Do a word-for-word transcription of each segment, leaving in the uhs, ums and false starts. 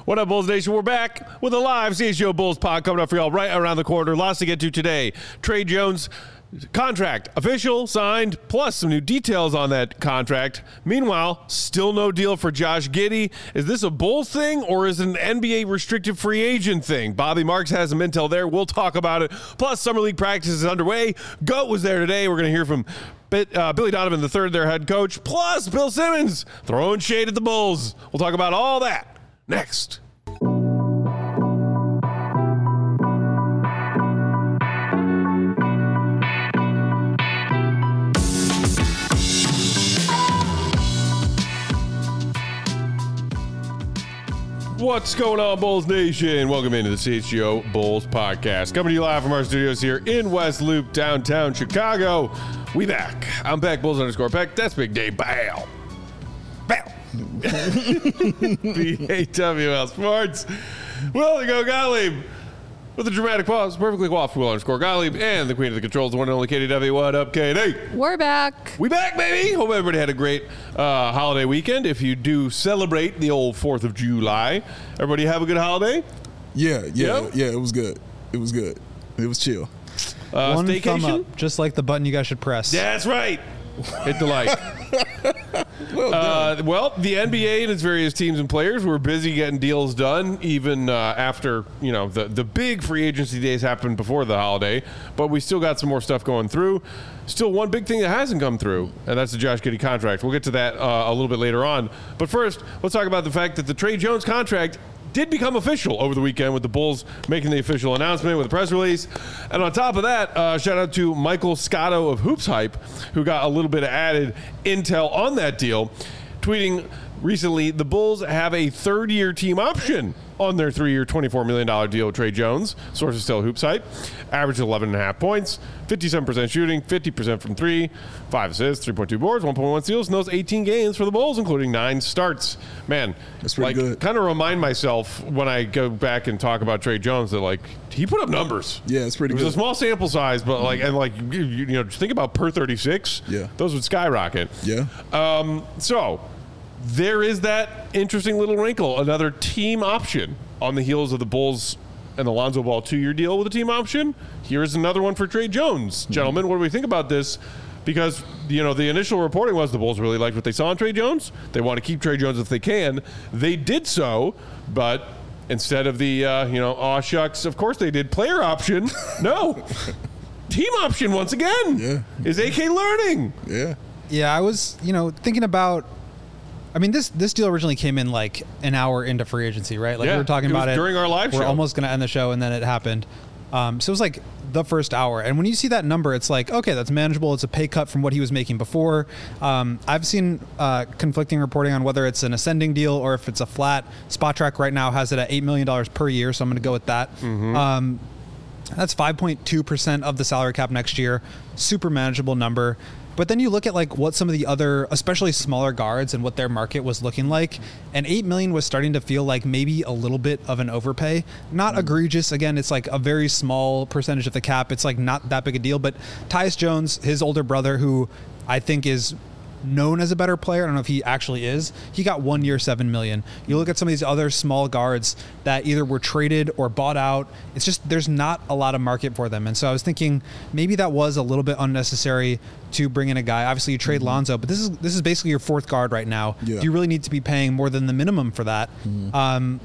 What up, Bulls Nation? We're back with a live C H G O Bulls pod coming up for y'all right around the corner. Lots to get to today. Tre Jones contract official, signed, plus some new details on that contract. Meanwhile, still no deal for Josh Giddey. Is this a Bulls thing or is it an N B A restricted free agent thing? Bobby Marks has some intel there. We'll talk about it. Plus, Summer League practice is underway. GOAT was there today. We're going to hear from Uh, Billy Donovan the third, their head coach, plus Bill Simmons throwing shade at the Bulls. We'll talk about all that next. What's going on, Bulls Nation? Welcome into the C H G O Bulls podcast. Coming to you live from our studios here in West Loop, downtown Chicago. We back. I'm Peck, Bulls underscore Peck. That's Big Dave. Bow. Bow. B A W L Sports. Will the Go Gottlieb with a dramatic pause. Perfectly coiffed Will underscore Gottlieb and the queen of the controls, the one and only Katie W. What up, Katie? We're back. We back, baby. Hope everybody had a great uh, holiday weekend. If you do celebrate the old fourth of July, everybody have a good holiday? Yeah, yeah, Yep. yeah. It was good. It was good. It was chill. Uh, One staycation? thumb up, just like the button you guys should press. That's right. Hit the like. Well Uh, well, the N B A and its various teams and players were busy getting deals done, even uh, after you know the the big free agency days happened before the holiday. But we still got some more stuff going through. Still, one big thing that hasn't come through, and that's the Josh Giddey contract. We'll get to that uh, a little bit later on. But first, let's talk about the fact that the Tre Jones contract did become official over the weekend, with the Bulls making the official announcement with a press release. And on top of that, uh, shout out to Michael Scotto of Hoops Hype, who got a little bit of added intel on that deal, tweeting recently, the Bulls have a third-year team option on their three-year, twenty-four million dollars deal with Tre Jones. Sources tell Hoops Hype. Averaged eleven point five points, fifty-seven percent shooting, fifty percent from three, five assists, three point two boards, one point one steals in those eighteen games for the Bulls, including nine starts. Man, That's pretty like, good. kind of remind myself when I go back and talk about Tre Jones that, like, he put up numbers. Yeah, it's pretty It was good. a small sample size, but, like, and, like, you, you know, just think about per thirty-six. Yeah. Those would skyrocket. Yeah. Um, so there is that interesting little wrinkle, another team option on the heels of the Bulls and the Lonzo Ball two-year deal with a team option. Here's another one for Tre Jones. Gentlemen, what do we think about this? Because, you know, the initial reporting was the Bulls really liked what they saw in Tre Jones. They want to keep Tre Jones if they can. They did so, but instead of the, uh, you know, aw shucks, of course they did player option. No. Team option once again. Yeah. Is A K learning? Yeah. Yeah, I was, you know, thinking about. I mean, this this deal originally came in like an hour into free agency, right? Like Yeah, we were talking it was about it during our live We're show. almost going to end the show, and then it happened. Um, so it was like the first hour, and when you see that number, it's like, okay, that's manageable. It's a pay cut from what he was making before. Um, I've seen uh, conflicting reporting on whether it's an ascending deal or if it's a flat. Spot Track right now has it at eight million dollars per year, so I'm going to go with that. Mm-hmm. Um, that's five point two percent of the salary cap next year. Super manageable number. But then you look at like what some of the other, especially smaller guards, and what their market was looking like, and eight million was starting to feel like maybe a little bit of an overpay. Not egregious. Again, it's like a very small percentage of the cap. It's like not that big a deal. But Tyus Jones, his older brother, who I think is known as a better player, I don't know if he actually is, he got one year seven million. You look at some of these other small guards that either were traded or bought out. It's just there's not a lot of market for them. And so I was thinking maybe that was a little bit unnecessary to bring in a guy. Obviously you trade mm-hmm. Lonzo, but this is this is basically your fourth guard right now. Yeah. Do you really need to be paying more than the minimum for that? Mm-hmm. Um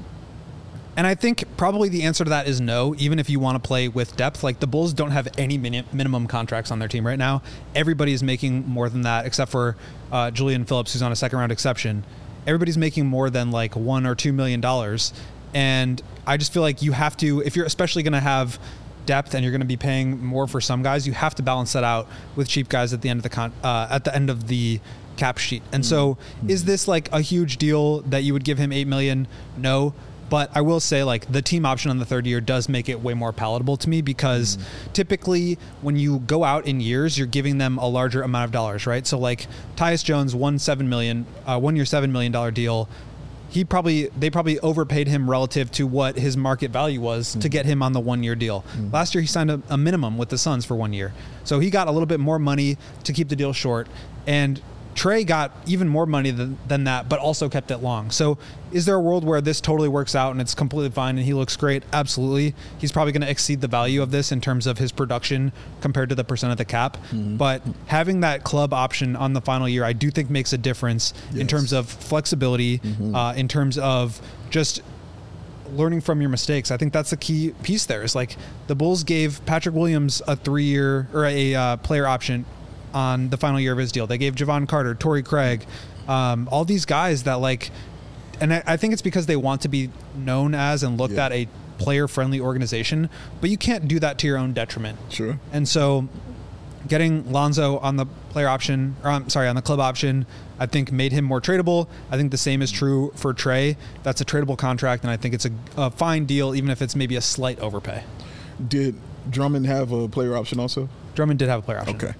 And I think probably the answer to that is no, even if you want to play with depth. Like the Bulls don't have any min- minimum contracts on their team right now. Everybody is making more than that, except for uh, Julian Phillips, who's on a second round exception. Everybody's making more than like one or two million dollars. And I just feel like you have to, if you're especially going to have depth and you're going to be paying more for some guys, you have to balance that out with cheap guys at the end of the con- uh, at the end of the cap sheet. And so mm-hmm. is this like a huge deal that you would give him eight million dollars? No. But I will say, like, the team option on the third year does make it way more palatable to me because mm. typically when you go out in years, you're giving them a larger amount of dollars, right? So, like, Tyus Jones, one seven million, uh, one year seven million dollar deal. He probably they probably overpaid him relative to what his market value was mm. to get him on the one year deal. Mm. Last year he signed a, a minimum with the Suns for one year, so he got a little bit more money to keep the deal short. And Trey got even more money than, than that, but also kept it long. So is there a world where this totally works out and it's completely fine and he looks great? Absolutely. He's probably going to exceed the value of this in terms of his production compared to the percent of the cap. Mm-hmm. But having that club option on the final year, I do think makes a difference yes. in terms of flexibility, mm-hmm. uh, in terms of just learning from your mistakes. I think that's the key piece there. Is like the Bulls gave Patrick Williams a three-year or a uh, player option on the final year of his deal. They gave Javon Carter, Torrey Craig, um, all these guys that like, and I, I think it's because they want to be known as and looked yeah. at a player-friendly organization, but you can't do that to your own detriment. Sure. And so getting Lonzo on the player option, or I'm sorry, on the club option, I think made him more tradable. I think the same is true for Trey. That's a tradable contract, and I think it's a, a fine deal, even if it's maybe a slight overpay. Did Drummond have a player option also? Drummond did have a player option. Okay.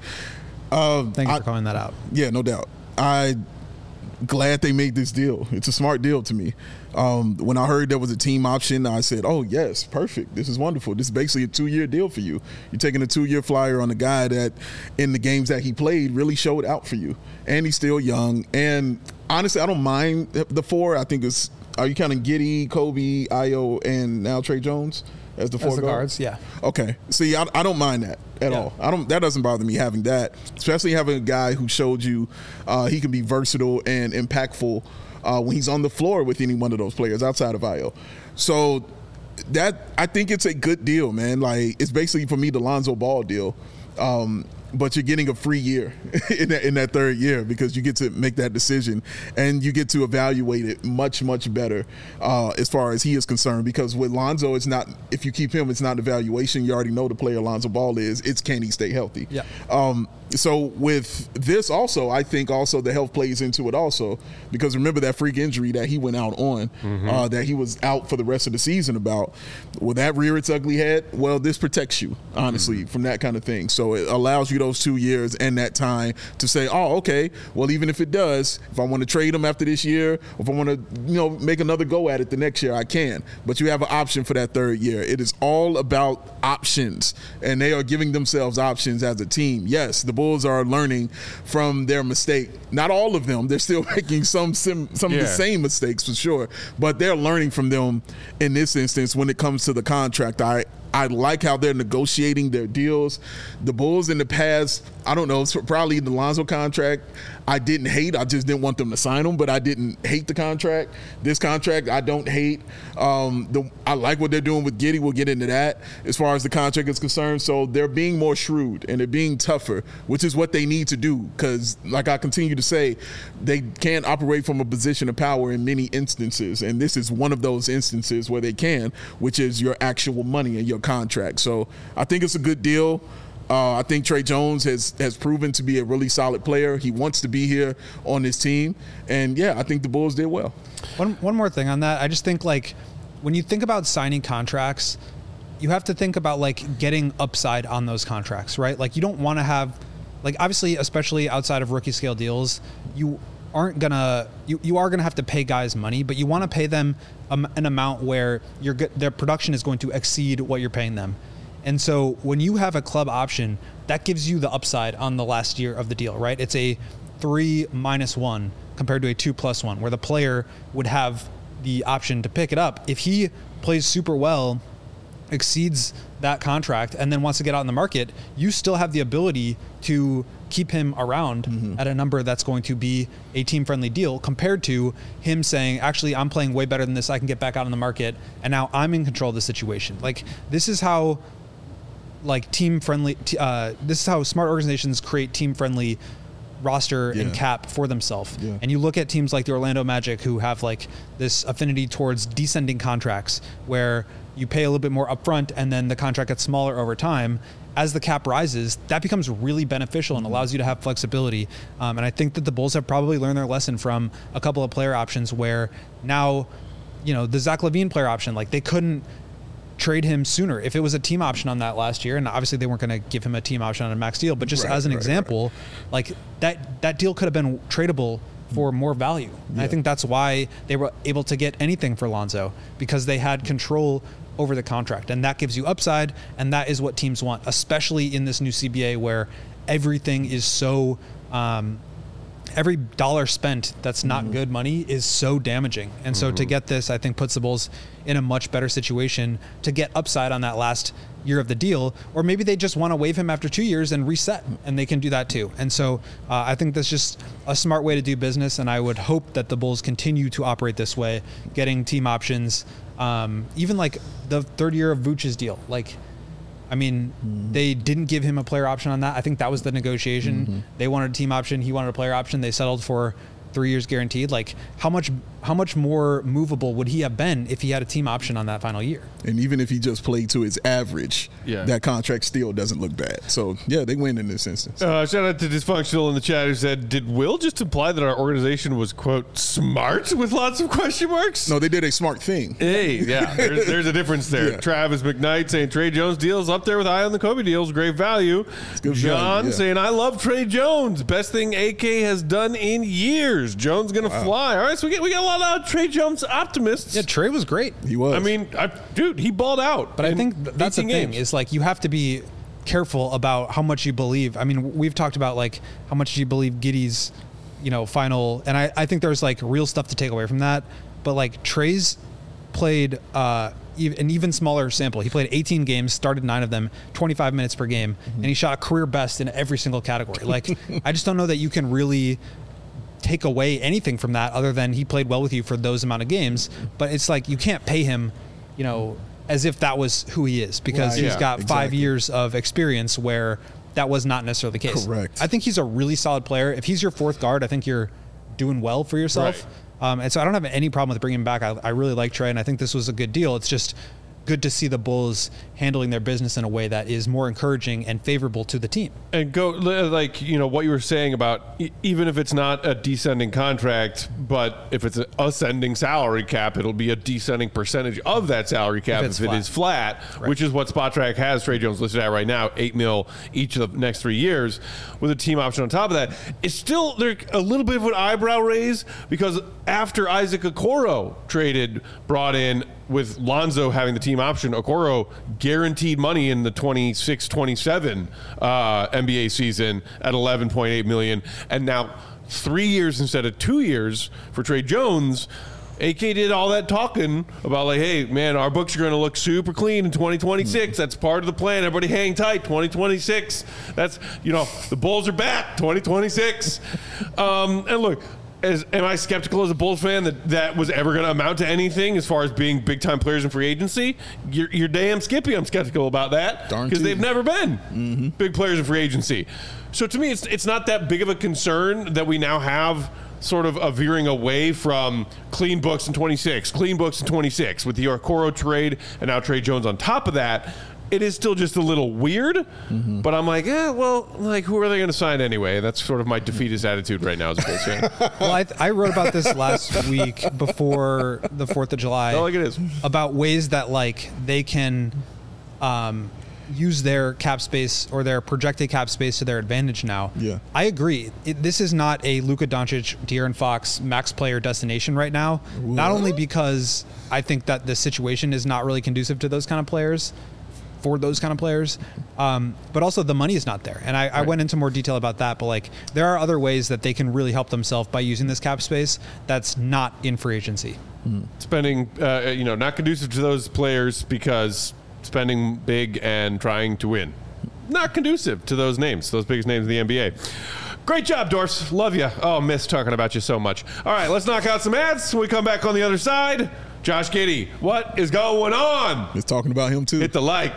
Um, Thank you I, for calling that out. Yeah, no doubt. I glad they made this deal. It's a smart deal to me. Um, when I heard there was a team option, I said, oh, yes, perfect. This is wonderful. This is basically a two-year deal for you. You're taking a two-year flyer on a guy that in the games that he played really showed out for you. And he's still young. And honestly, I don't mind the four. I think it's, are you counting Giddey, Kobe, Ayo, and now Trey Jones as the four as the guards? guards? Yeah. Okay. See, I, I don't mind that at yeah. all. I don't. That doesn't bother me having that, especially having a guy who showed you uh, he can be versatile and impactful uh, when he's on the floor with any one of those players outside of Ayo. So that I think it's a good deal, man. Like it's basically for me the Lonzo Ball deal. Um, but you're getting a free year in that, in that third year because you get to make that decision and you get to evaluate it much, much better uh, as far as he is concerned. Because with Lonzo, it's not, if you keep him, it's not evaluation. You already know the player Lonzo Ball is. It's can he stay healthy? Yeah. Um, so with this also, I think also the health plays into it also because remember that freak injury that he went out on, mm-hmm. uh, that he was out for the rest of the season about. Will that rear its ugly head? Well, this protects you, honestly, mm-hmm. from that kind of thing. So it allows you those two years and that time to say, oh, okay, well, even if it does, if I want to trade him after this year, or if I want to, you know, make another go at it the next year, I can. But you have an option for that third year. It is all about options, and they are giving themselves options as a team. Yes, the Bulls are learning from their mistake. Not all of them. They're still making some sim, some yeah. of the same mistakes for sure, but they're learning from them in this instance when it comes to the contract. I I like how they're negotiating their deals. The Bulls in the past, I don't know, it's probably the Lonzo contract, I didn't hate. I just didn't want them to sign them, but I didn't hate the contract. This contract, I don't hate. Um, the, I like what they're doing with Giddey. We'll get into that as far as the contract is concerned. So they're being more shrewd and they're being tougher, which is what they need to do because, like I continue to say, they can't operate from a position of power in many instances, and this is one of those instances where they can, which is your actual money and your contract. So I think it's a good deal. Uh, I think Trey Jones has has proven to be a really solid player. He wants to be here on this team. And, yeah, I think the Bulls did well. One one more thing on that. I just think, like, when you think about signing contracts, you have to think about, like, getting upside on those contracts, right? Like, you don't want to have – like, obviously, especially outside of rookie scale deals, you aren't going to – you you are going to have to pay guys money, but you want to pay them um, an amount where your their production is going to exceed what you're paying them. And so when you have a club option, that gives you the upside on the last year of the deal, right? It's a three minus one compared to a two plus one, where the player would have the option to pick it up. If he plays super well, exceeds that contract, and then wants to get out in the market, you still have the ability to keep him around mm-hmm. at a number that's going to be a team-friendly deal compared to him saying, actually, I'm playing way better than this. I can get back out in the market, and now I'm in control of the situation. Like, this is how... like team friendly, uh, this is how smart organizations create team friendly roster yeah. and cap for themselves. Yeah. And you look at teams like the Orlando Magic who have like this affinity towards descending contracts where you pay a little bit more upfront and then the contract gets smaller over time. As the cap rises, that becomes really beneficial and allows you to have flexibility. Um, and I think that the Bulls have probably learned their lesson from a couple of player options where now, you know, the Zach LaVine player option, like they couldn't trade him sooner. If it was a team option on that last year, and obviously they weren't going to give him a team option on a max deal, but just right, as an right, example, right. like that that deal could have been tradable for more value. And yeah. I think that's why they were able to get anything for Lonzo, because they had control over the contract, and that gives you upside, and that is what teams want, especially in this new C B A where everything is so um, every dollar spent that's not mm-hmm. good money is so damaging. And so mm-hmm. to get this, I think puts the Bulls in a much better situation to get upside on that last year of the deal, or maybe they just want to waive him after two years and reset, and they can do that too. And so uh, I think that's just a smart way to do business, and I would hope that the Bulls continue to operate this way, getting team options, um, even like the third year of Vooch's deal. Like, I mean, mm-hmm. they didn't give him a player option on that. I think that was the negotiation. Mm-hmm. They wanted a team option. He wanted a player option. They settled for three years guaranteed. Like, how much how much more movable would he have been if he had a team option on that final year? And even if he just played to his average, yeah. that contract still doesn't look bad. So, yeah, they win in this instance. Uh, shout out to Dysfunctional in the chat who said, did Will just imply that our organization was, quote, smart with lots of question marks? No, they did a smart thing. Hey, yeah, there's, there's a difference there. Yeah. Travis McKnight saying Trey Jones deals up there with Eye on the Kobe deals, great value. Good John value, yeah. saying, I love Trey Jones. Best thing A K has done in years. Jones going to wow. fly. All right, so we get, we got a lot of Trey Jones optimists. Yeah, Trey was great. He was. I mean, I, dude, he balled out. But I think that's the thing games. is like you have to be careful about how much you believe. I mean, we've talked about like how much you believe Giddey's, you know, final, and I, I think there's like real stuff to take away from that. But like Trey's played uh, an even smaller sample. He played eighteen games, started nine of them, twenty-five minutes per game, mm-hmm. and he shot a career best in every single category. Like, I just don't know that you can really take away anything from that other than he played well with you for those amount of games. But it's like you can't pay him, you know, as if that was who he is, because right. he's yeah, got exactly. five years of experience where that was not necessarily the case. Correct. I think he's a really solid player. If he's your fourth guard, I think you're doing well for yourself. Right. Um, and so I don't have any problem with bringing him back. I, I really like Trey, and I think this was a good deal. It's just good to see the Bulls handling their business in a way that is more encouraging and favorable to the team. And go like, you know, what you were saying about e- even if it's not a descending contract, but if it's an ascending salary cap, it'll be a descending percentage of that salary cap if, if it is flat, right. which is what SpotTrack has Trey Jones listed at right now, eight mil each of the next three years with a team option on top of that. It's still there a little bit of an eyebrow raise because after Isaac Okoro traded, brought in with Lonzo having the team option, Okoro guaranteed money in the twenty-six twenty-seven uh, N B A season at eleven point eight million dollars, and now three years instead of two years for Trey Jones. A K did all that talking about like, hey, man, our books are going to look super clean in twenty twenty-six. That's part of the plan. Everybody hang tight. twenty twenty-six. That's, you know, the Bulls are back. twenty twenty-six. Um, and look, As, am I skeptical as a Bulls fan that that was ever going to amount to anything as far as being big-time players in free agency? You're, you're damn skippy. I'm skeptical about that because they've never been mm-hmm. big players in free agency. So to me, it's it's not that big of a concern that we now have sort of a veering away from clean books in twenty-six, clean books in twenty-six with the Okoro trade and now Trey Jones on top of that. It is still just a little weird, mm-hmm. but I'm like, yeah, well, like, who are they going to sign anyway? That's sort of my defeatist attitude right now as a Bulls fan. Well, I, th- I wrote about this last week before the fourth of July. Oh, like it is. About ways that, like, they can um, use their cap space or their projected cap space to their advantage now. Yeah. I agree. It, this is not a Luka Doncic, De'Aaron Fox max player destination right now. What? Not only because I think that the situation is not really conducive to those kind of players, for those kind of players, um, but also the money is not there. And I, I right. went into more detail about that, but like there are other ways that they can really help themselves by using this cap space that's not in free agency. Mm. Spending, uh, you know, not conducive to those players because spending big and trying to win. Not conducive to those names, those biggest names in the N B A. Great job, Dorfs. Love you. Oh, miss talking about you so much. All right, let's knock out some ads. When we come back on the other side, Josh Giddey, what is going on? It's talking about him, too. Hit the like.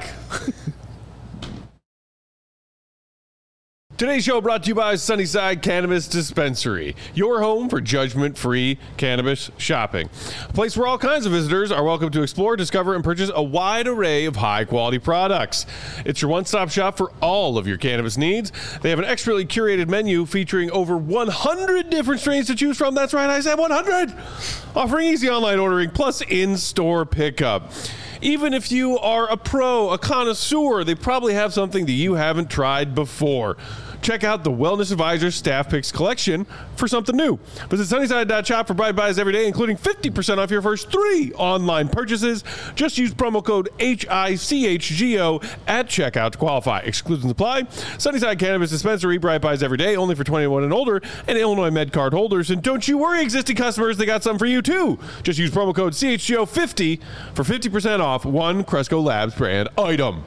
Today's show brought to you by Sunnyside Cannabis Dispensary, your home for judgment-free cannabis shopping. A place where all kinds of visitors are welcome to explore, discover, and purchase a wide array of high-quality products. It's your one-stop shop for all of your cannabis needs. They have an expertly curated menu featuring over one hundred different strains to choose from. That's right, I said one hundred! Offering easy online ordering plus in-store pickup. Even if you are a pro, a connoisseur, they probably have something that you haven't tried before. Check out the Wellness Advisors Staff Picks collection for something new. Visit Sunnyside dot shop for bright buys every day, including fifty percent off your first three online purchases. Just use promo code H I C H G O at checkout to qualify. Exclusions apply. Sunnyside Cannabis Dispensary, bright buys every day, only for twenty-one and older, and Illinois MedCard holders. And don't you worry, existing customers, they got some for you too. Just use promo code C H G O fifty for fifty percent off one Cresco Labs brand item.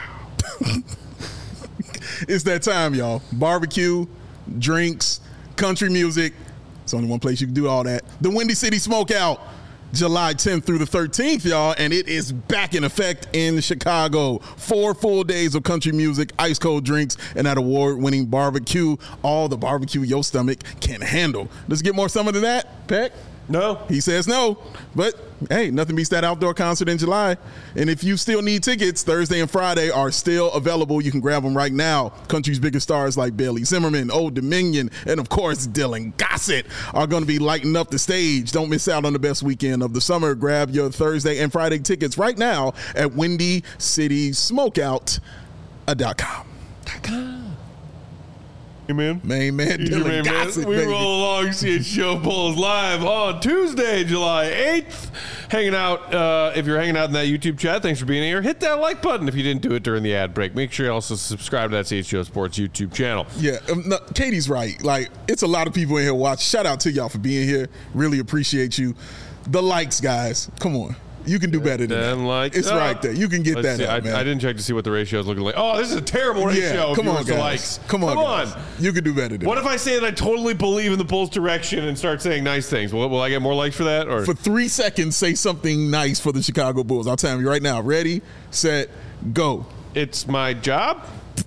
It's that time, y'all. Barbecue, drinks, country music. It's only one place you can do all that. The Windy City Smokeout, July tenth through the thirteenth, y'all, and it is back in effect in Chicago. Four full days of country music, ice cold drinks, and that award-winning barbecue. All the barbecue your stomach can handle. Let's get more summer than that, Peck. No. He says no, but hey, nothing beats that outdoor concert in July. And if you still need tickets, Thursday and Friday are still available. You can grab them right now. Country's biggest stars like Bailey Zimmerman, Old Dominion, and of course, Dylan Gossett are going to be lighting up the stage. Don't miss out on the best weekend of the summer. Grab your Thursday and Friday tickets right now at windy city smokeout dot com. Hey, man. Main man, Easy, Dylan man, man. Gossett, We baby. roll along C H G O Bulls live on Tuesday, July eighth. Hanging out, uh, if you're hanging out in that YouTube chat, thanks for being here. Hit that like button if you didn't do it during the ad break. Make sure you also subscribe to that C H G O Sports YouTube channel. Yeah, um, no, Katie's right. Like, it's a lot of people in here watch. Shout out to y'all for being here. Really appreciate you. The likes, guys. Come on. You can do better than that. And like, it's oh, right there. You can get let's that see. up, I, man. I didn't check to see what the ratio is looking like. Oh, this is a terrible ratio. Yeah, of come on, viewers to guys. likes. Come on, Come guys. on. You can do better than What that. if I say that I totally believe in the Bulls' direction and start saying nice things? Will, will I get more likes for that? Or For three seconds, say something nice for the Chicago Bulls. I'll tell you right now. Ready, set, go. it's my job?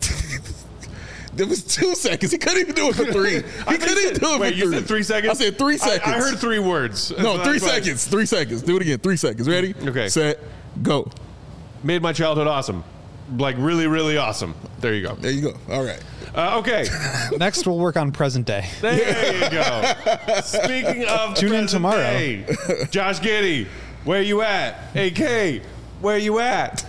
There was two seconds. He couldn't even do it for three. He I couldn't even do it Wait, for you three. said three seconds? I said three I- seconds. I, heard three words. No, That's three fine. seconds. Three seconds. Do it again. Three seconds. Ready? Okay. Set, go. Made my childhood awesome. Like really, really awesome. There you go. There you go. All right. Uh, okay. Next, we'll work on present day. There you go. Speaking of Tune in present tomorrow. day, Josh Giddey, where you at? A K, where you at?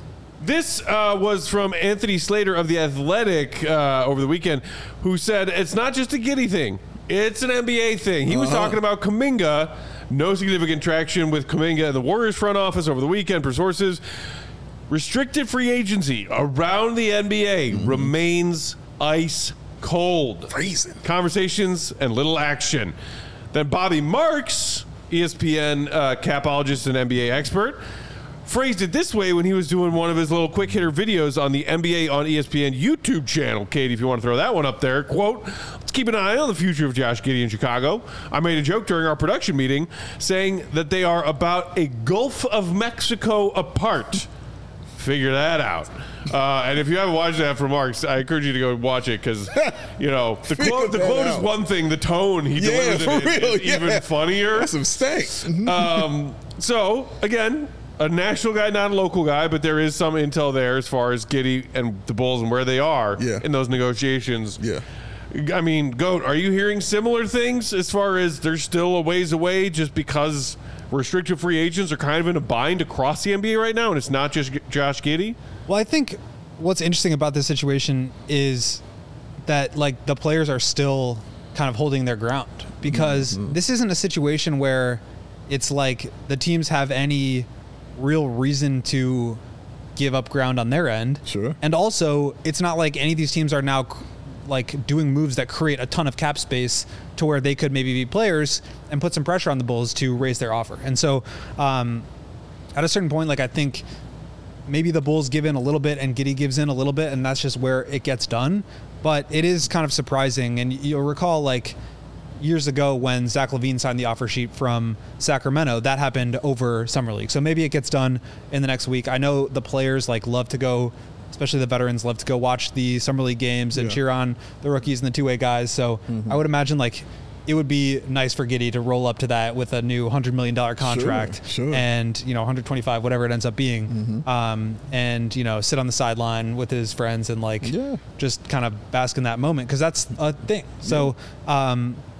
This uh, was from Anthony Slater of The Athletic uh, over the weekend, who said it's not just a Giddey thing. It's an N B A thing. He was Uh-huh. talking about Kuminga. No significant traction with Kuminga in the Warriors front office over the weekend per sources. Restricted free agency around the N B A Mm-hmm. remains ice cold. Freezing. Conversations and little action. Then Bobby Marks, E S P N uh, capologist and N B A expert, phrased it this way when he was doing one of his little quick hitter videos on the N B A on E S P N YouTube channel. Katie, if you want to throw that one up there, quote, "Let's keep an eye on the future of Josh Giddey in Chicago. I made a joke during our production meeting saying that they are about a Gulf of Mexico apart. Figure that out." Uh, and if you haven't watched that from Marks, I encourage you to go watch it because, you know, the Figure quote, the that quote is out. one thing. The tone he Yeah, delivers for it in real. is yeah. even funnier. That's some stank. Um, so, again, a national guy, not a local guy, but there is some intel there as far as Giddey and the Bulls and where they are Yeah. in those negotiations. Yeah. I mean, Goat, are you hearing similar things as far as they're still a ways away just because restricted free agents are kind of in a bind across the N B A right now and it's not just G- Josh Giddey? Well, I think what's interesting about this situation is that like the players are still kind of holding their ground because Mm-hmm. this isn't a situation where it's like the teams have any real reason to give up ground on their end. Sure. And also, it's not like any of these teams are now like doing moves that create a ton of cap space to where they could maybe be players and put some pressure on the Bulls to raise their offer. And so, um, at a certain point, like I think maybe the Bulls give in a little bit and Giddey gives in a little bit, and that's just where it gets done. But it is kind of surprising, and you'll recall like years ago when Zach LaVine signed the offer sheet from Sacramento, that happened over Summer League. So maybe it gets done in the next week. I know the players like love to go, especially the veterans love to go watch the Summer League games and Yeah. cheer on the rookies and the two-way guys. So I would imagine like it would be nice for Giddey to roll up to that with a new one hundred million dollars contract sure. and, you know, one hundred twenty-five, whatever it ends up being. Um, and, you know, sit on the sideline with his friends and like Yeah. just kind of bask in that moment because that's a thing. So, um,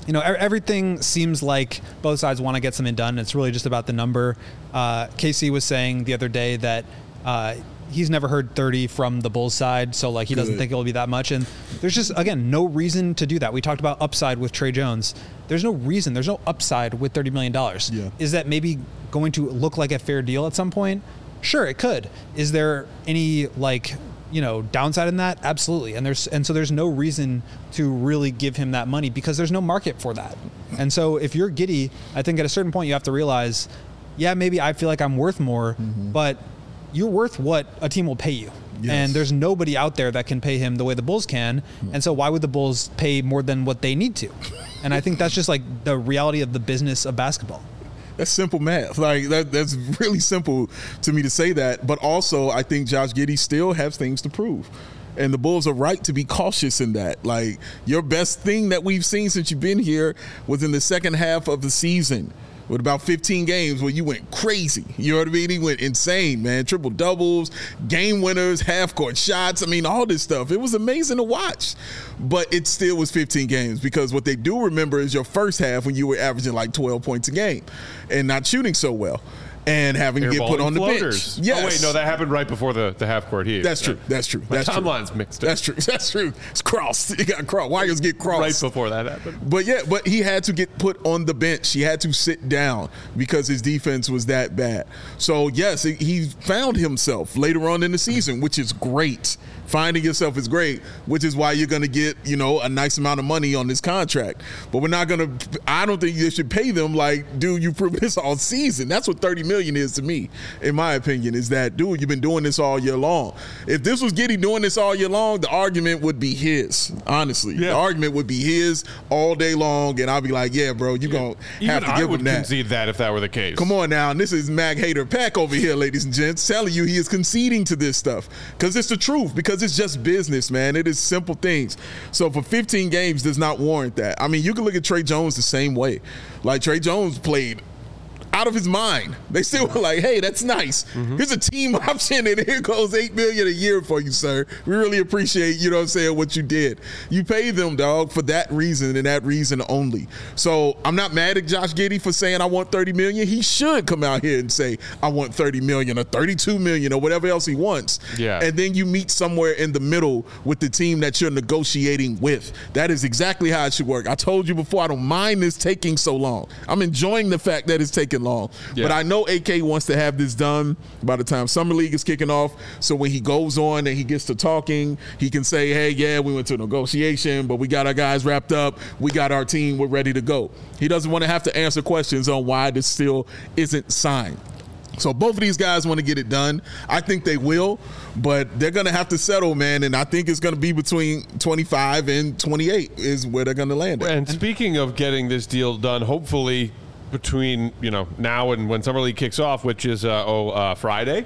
you know, everything seems like both sides want to get something done. It's really just about the number. Uh, K C was saying the other day that uh, he's never heard thirty from the Bulls side, so like he doesn't Good. think it'll be that much. And there's just, again, no reason to do that. We talked about upside with Trey Jones. There's no reason. There's no upside with thirty million dollars. Yeah. Is that maybe going to look like a fair deal at some point? Sure, it could. Is there any like, you know, downside in that? Absolutely. And there's and so there's no reason to really give him that money because there's no market for that. And so if you're Giddey, I think at a certain point you have to realize, yeah, maybe I feel like I'm worth more, mm-hmm. but you're worth what a team will pay you. Yes. And there's nobody out there that can pay him the way the Bulls can. Mm-hmm. And so why would the Bulls pay more than what they need to? And I think that's just like the reality of the business of basketball. That's simple math. Like that, that's really simple to me to say that. But also, I think Josh Giddey still has things to prove. And the Bulls are right to be cautious in that. Like, your best thing that we've seen since you've been here was in the second half of the season with about fifteen games where you went crazy. You know what I mean? He went insane, man. Triple doubles, game winners, half court shots. I mean, all this stuff. It was amazing to watch. But it still was fifteen games because what they do remember is your first half when you were averaging like twelve points a game and not shooting so well. And having to get put on the floaters. bench. Yes. Oh, wait, no, that happened right before the, the half-court heat. That's true. That's true. My That's timeline's true. mixed up. That's true. That's true. It's crossed. You got crossed. Wires get crossed. Right before that happened. But, yeah, but he had to get put on the bench. He had to sit down because his defense was that bad. So, yes, he found himself later on in the season, which is great. Finding yourself is great, which is why you're going to get, you know, a nice amount of money on this contract. But we're not going to – I don't think you should pay them like, dude, you proved this all season. That's what thirty million dollars is to me, in my opinion, is that, dude, you've been doing this all year long. If this was Giddey doing this all year long, the argument would be his, honestly. Yeah. The argument would be his all day long, and I'll be like, yeah, bro, you're going to have to I give would him that. concede that if that were the case. Come on now, and this is Mag Hater Pack over here, ladies and gents, telling you he is conceding to this stuff because it's the truth, because it's just business, man. It is simple things. So for fifteen games does not warrant that. I mean, you can look at Trey Jones the same way. Like, Trey Jones played out of his mind. They still were like, hey, that's nice. Mm-hmm. Here's a team option, and here goes eight million dollars a year for you, sir. We really appreciate, you know what I'm saying, what you did. You pay them, dog, for that reason and that reason only. So I'm not mad at Josh Giddey for saying I want thirty million dollars. He should come out here and say I want thirty million dollars or thirty-two million dollars or whatever else he wants. Yeah. And then you meet somewhere in the middle with the team that you're negotiating with. That is exactly how it should work. I told you before, I don't mind this taking so long. I'm enjoying the fact that it's taking long. Yeah. But I know A K wants to have this done by the time Summer League is kicking off. So when he goes on and he gets to talking, he can say, hey, yeah, we went to a negotiation, but we got our guys wrapped up. We got our team. We're ready to go. He doesn't want to have to answer questions on why this still isn't signed. So both of these guys want to get it done. I think they will, but they're going to have to settle, man. And I think it's going to be between twenty-five and twenty-eight is where they're going to land at. And speaking of getting this deal done, hopefully between, you know, now and when Summer League kicks off, which is uh, oh uh, Friday,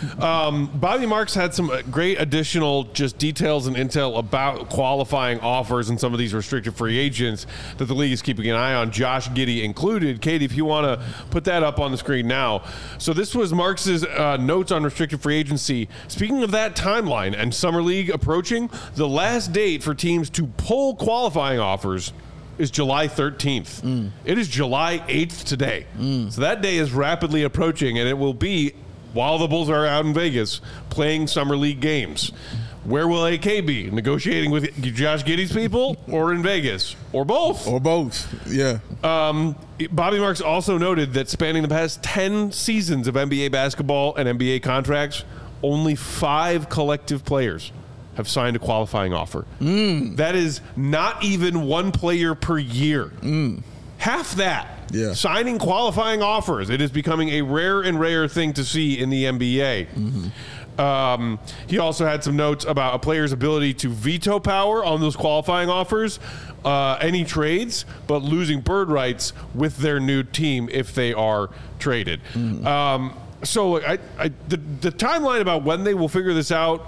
um, Bobby Marks had some great additional just details and intel about qualifying offers and some of these restricted free agents that the league is keeping an eye on, Josh Giddey included. Katie, if you want to put that up on the screen now. So this was Marks's uh, notes on restricted free agency. Speaking of that timeline and Summer League approaching, the last date for teams to pull qualifying offers is July thirteenth. Mm. It is July eighth today. Mm. So that day is rapidly approaching, and it will be while the Bulls are out in Vegas playing Summer League games. Where will A K be? Negotiating with Josh Giddey's people or in Vegas? Or both? Or both, yeah. Um, Bobby Marks also noted that spanning the past ten seasons of N B A basketball and N B A contracts, only five collective players have signed a qualifying offer. Mm. That is not even one player per year. Mm. Half that. Yeah. Signing qualifying offers. It is becoming a rare and rare thing to see in the N B A. Mm-hmm. Um, he also had some notes about a player's ability to veto power on those qualifying offers, uh, any trades, but losing bird rights with their new team if they are traded. Mm. Um, so I, I, the, the timeline about when they will figure this out,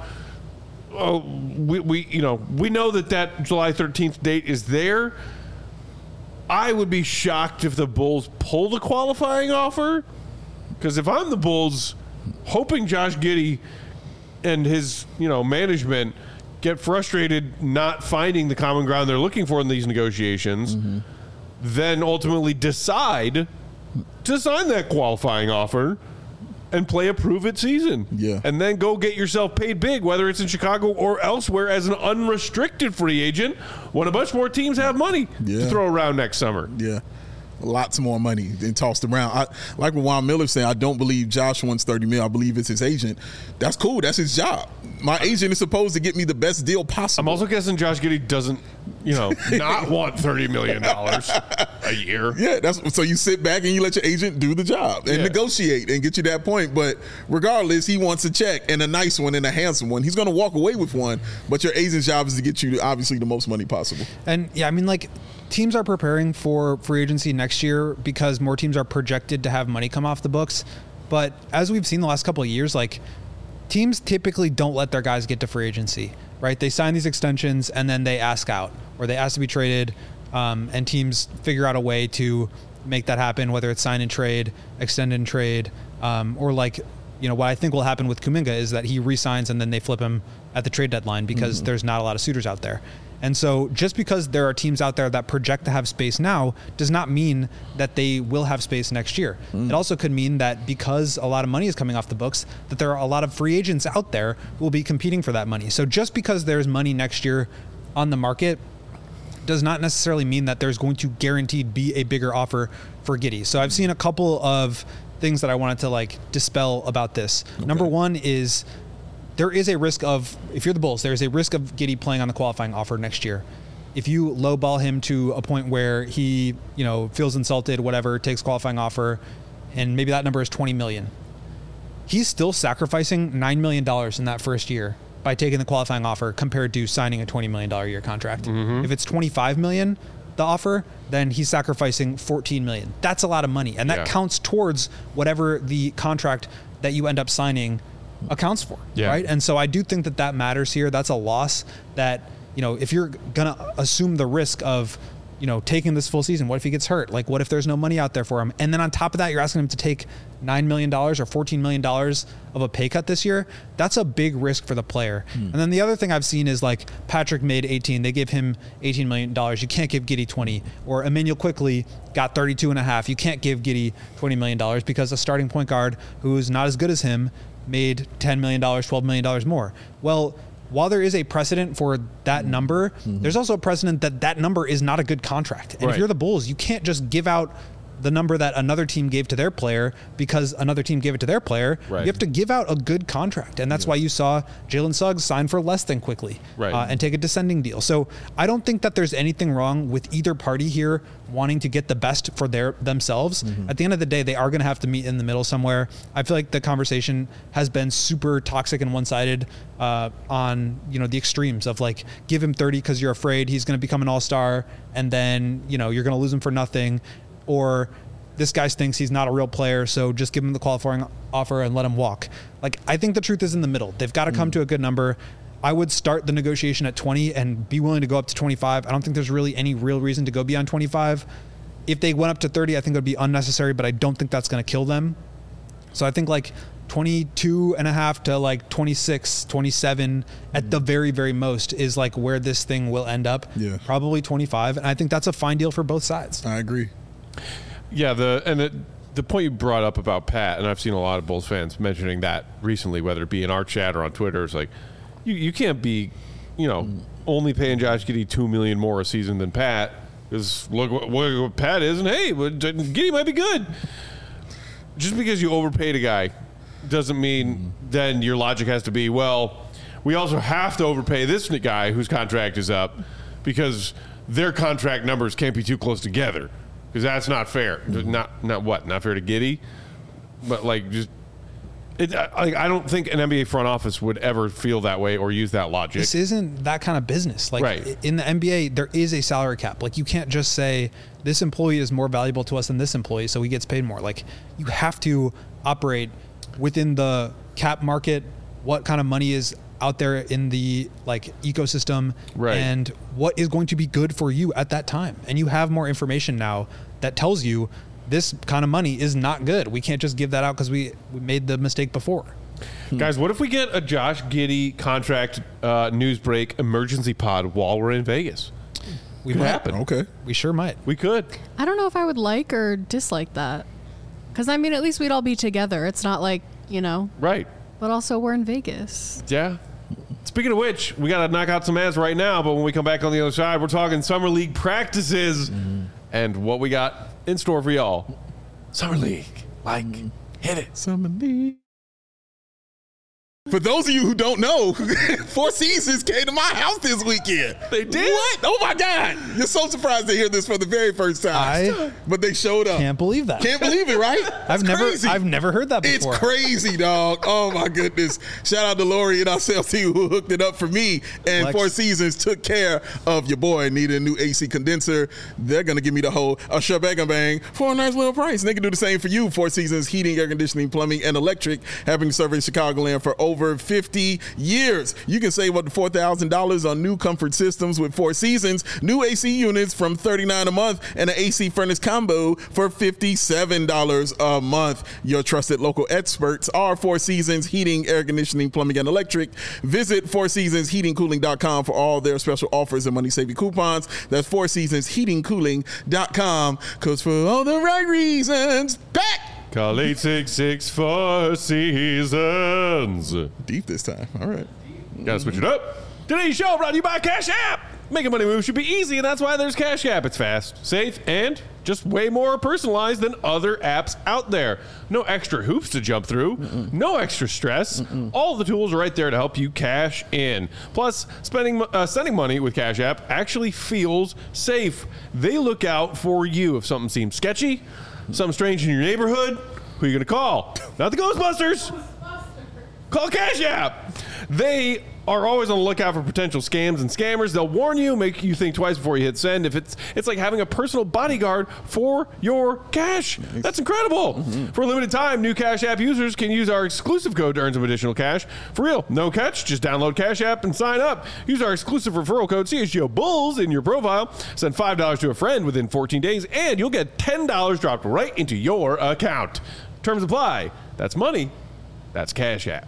Oh, we, we, you know, we know that that July thirteenth date is there. I would be shocked if the Bulls pull the qualifying offer, because if I'm the Bulls, hoping Josh Giddey and his, you know, management get frustrated not finding the common ground they're looking for in these negotiations, mm-hmm. then ultimately decide to sign that qualifying offer and play a prove-it season. Yeah. And then go get yourself paid big, whether it's in Chicago or elsewhere as an unrestricted free agent when a bunch more teams have money Yeah. to throw around next summer. Yeah. Lots more money than tossed around. I, like what Juan Miller saying, I don't believe Josh wants thirty mil. I believe it's his agent. That's cool. That's his job. My agent is supposed to get me the best deal possible. I'm also guessing Josh Giddey doesn't, you know, not want thirty million dollars a year. Yeah, that's so you sit back and you let your agent do the job and Yeah. negotiate and get you that point. But regardless, he wants a check and a nice one and a handsome one. He's going to walk away with one, but your agent's job is to get you obviously the most money possible. And yeah, I mean, like, teams are preparing for free agency next year because more teams are projected to have money come off the books. But as we've seen the last couple of years, like, teams typically don't let their guys get to free agency, right? They sign these extensions and then they ask out, or they ask to be traded, um, and teams figure out a way to make that happen, whether it's sign and trade, extend and trade, um, or like, you know, what I think will happen with Kuminga is that he re-signs and then they flip him at the trade deadline because mm-hmm. there's not a lot of suitors out there. And so just because there are teams out there that project to have space now does not mean that they will have space next year. Mm. It also could mean that because a lot of money is coming off the books, that there are a lot of free agents out there who will be competing for that money. So just because there's money next year on the market does not necessarily mean that there's going to guaranteed be a bigger offer for Giddey. So I've seen a couple of things that I wanted to like dispel about this. Okay. Number one is there is a risk of, if you're the Bulls, there's a risk of Giddey playing on the qualifying offer next year. If you lowball him to a point where he, you know, feels insulted, whatever, takes qualifying offer, and maybe that number is twenty million dollars, he's still sacrificing nine million dollars in that first year by taking the qualifying offer compared to signing a twenty million dollars a year contract. Mm-hmm. If it's twenty-five million dollars, the offer, then he's sacrificing fourteen million dollars. That's a lot of money, and that yeah. counts towards whatever the contract that you end up signing accounts for, yeah. right? And so I do think that that matters here. That's a loss that, you know, if you're going to assume the risk of, you know, taking this full season, what if he gets hurt? Like, what if there's no money out there for him? And then on top of that, you're asking him to take nine million dollars or fourteen million dollars of a pay cut this year. That's a big risk for the player. Hmm. And then the other thing I've seen is like Patrick made eighteen. They gave him eighteen million dollars. You can't give Giddey twenty. Or Emmanuel Quickley got thirty-two and a half. You can't give Giddey twenty million dollars because a starting point guard who's not as good as him made ten million dollars, twelve million dollars more. Well, while there is a precedent for that number, mm-hmm. there's also a precedent that that number is not a good contract. And right. if you're the Bulls, you can't just give out the number that another team gave to their player because another team gave it to their player. Right. You have to give out a good contract. And that's yeah. why you saw Jalen Suggs sign for less than Quickly right. uh, and take a descending deal. So I don't think that there's anything wrong with either party here wanting to get the best for their themselves. Mm-hmm. At the end of the day, they are going to have to meet in the middle somewhere. I feel like the conversation has been super toxic and one-sided uh, on, you know, the extremes of like, give him thirty because you're afraid he's going to become an all-star and then, you know, you're going to lose him for nothing. Or this guy thinks he's not a real player, so just give him the qualifying offer and let him walk. Like, I think the truth is in the middle. They've got to come mm. to a good number. I would start the negotiation at twenty and be willing to go up to twenty-five. I don't think there's really any real reason to go beyond twenty-five. If they went up to thirty, I think it would be unnecessary, but I don't think that's going to kill them. So I think like twenty-two and a half to like twenty-six, twenty-seven at the very, very most is like where this thing will end up. Yeah. Probably twenty-five. And I think that's a fine deal for both sides. I agree. Yeah, the and it, the point you brought up about Pat, and I've seen a lot of Bulls fans mentioning that recently, whether it be in our chat or on Twitter, it's like, you, you can't be, you know, mm. only paying Josh Giddey two million dollars more a season than Pat, because look what, what Pat is, and hey, Giddey might be good. Just because you overpaid a guy doesn't mean mm. then your logic has to be, well, we also have to overpay this guy whose contract is up because their contract numbers can't be too close together. Because that's not fair. Mm-hmm. Not not what? Not fair to Giddey? But, like, just... It, I, I don't think an N B A front office would ever feel that way or use that logic. This isn't that kind of business. Like, right. in the N B A, there is a salary cap. Like, you can't just say, this employee is more valuable to us than this employee, so he gets paid more. Like, you have to operate within the cap market, what kind of money is out there in the like ecosystem right. and what is going to be good for you at that time. And you have more information now that tells you this kind of money is not good. We can't just give that out because we, we made the mistake before. Hmm. Guys, what if we get a Josh Giddey contract uh, news break emergency pod while we're in Vegas? We Could might. happen. Okay. We sure might. We could. I don't know if I would like or dislike that. Because, I mean, at least we'd all be together. It's not like, you know, Right. but also we're in Vegas. Yeah. Speaking of which, we got to knock out some ads right now, but when we come back on the other side, we're talking Summer League practices mm-hmm. and what we got in store for y'all. Summer League. Like, mm-hmm. hit it. Summer League. For those of you who don't know, Four Seasons came to my house this weekend. They did? What? Oh, my God. You're so surprised to hear this for the very first time. I but they showed up. Can't believe that. Can't believe it, right? I've It's never crazy. I've never heard that before. It's crazy, dog. Oh, my goodness. Shout out to Lori and our sales team who hooked it up for me. And Flex. Four Seasons took care of your boy. Needed a new A C condenser. They're going to give me the whole a shebang bang for a nice little price. And they can do the same for you. Four Seasons Heating, Air Conditioning, Plumbing, and Electric, having served Chicagoland for over fifty years. You can save up to four thousand dollars on new comfort systems with Four Seasons. New A C units from thirty-nine dollars a month and an A C furnace combo for fifty-seven dollars a month. Your trusted local experts are Four Seasons Heating, Air Conditioning, Plumbing, and Electric. Visit four seasons heating cooling dot com for all their special offers and money-saving coupons. That's four seasons heating cooling dot com, because for all the right reasons, back! Call eight six six Four Seasons. Deep this time. All right. Gotta switch it up. Today's show brought to you by Cash App. Making money move should be easy, and that's why there's Cash App. It's fast, safe, and just way more personalized than other apps out there. No extra hoops to jump through. Mm-mm. No extra stress. Mm-mm. All the tools are right there to help you cash in. Plus, spending uh, sending money with Cash App actually feels safe. They look out for you if something seems sketchy, something strange in your neighborhood. Who are you going to call? Not the Ghostbusters. Call Cash App. They are always on the lookout for potential scams and scammers. They'll warn you, make you think twice before you hit send. If it's it's like having a personal bodyguard for your cash. Nice. That's incredible. Mm-hmm. For a limited time, new Cash App users can use our exclusive code to earn some additional cash. For real, no catch. Just download Cash App and sign up. Use our exclusive referral code C H G O Bulls in your profile. Send five dollars to a friend within fourteen days, and you'll get ten dollars dropped right into your account. Terms apply. That's money. That's Cash App.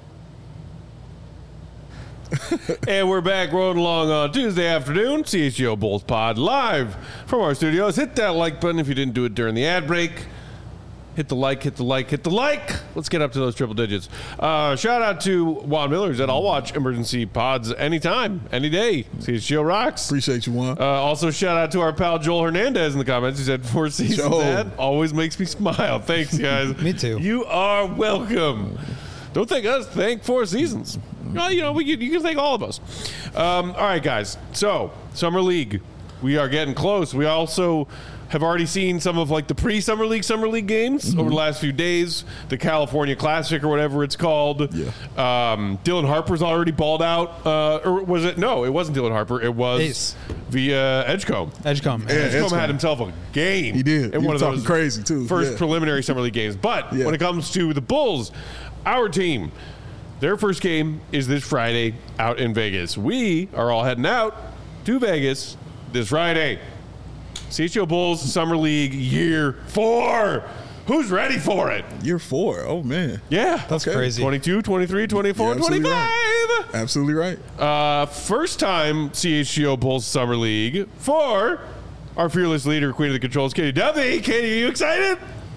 And we're back rolling along on Tuesday afternoon, C H G O Bulls Pod live from our studios. Hit that like button if you didn't do it during the ad break. Hit the like, hit the like, hit the like. Let's get up to those triple digits. Uh, shout out to Juan Miller, who said, I'll watch emergency pods anytime, any day. C H G O rocks. Appreciate you, Juan. Uh, also, shout out to our pal Joel Hernandez in the comments. He said, Four Seasons Joel. ad always makes me smile. Thanks, guys. Me too. You are welcome. Don't thank us. Thank Four Seasons. Well, you know, we can, you can thank all of us. Um, all right, guys. So, Summer League. We are getting close. We also have already seen some of like the pre-Summer League Summer League games mm-hmm. over the last few days. The California Classic or whatever it's called. Yeah. Um, Dylan Harper's already balled out. Uh, or was it? No, it wasn't Dylan Harper. It was Ace. via Edgecombe. Edgecombe. Yeah, Edgecombe Edgecombe. had himself a game. He did. In He one was of talking those crazy, too. First Yeah. preliminary Summer League games. But Yeah. when it comes to the Bulls, our team, their first game is this Friday out in Vegas. We are all heading out to Vegas this Friday. C H G O Bulls Summer League year four. Who's ready for it? Year four. Oh, man. Yeah. That's Okay. crazy. twenty-two, twenty-three, twenty-four, You're absolutely twenty-five. Absolutely right. Uh, first time C H G O Bulls Summer League for our fearless leader, Queen of the Controls, Katie Duffy. Katie, are you excited?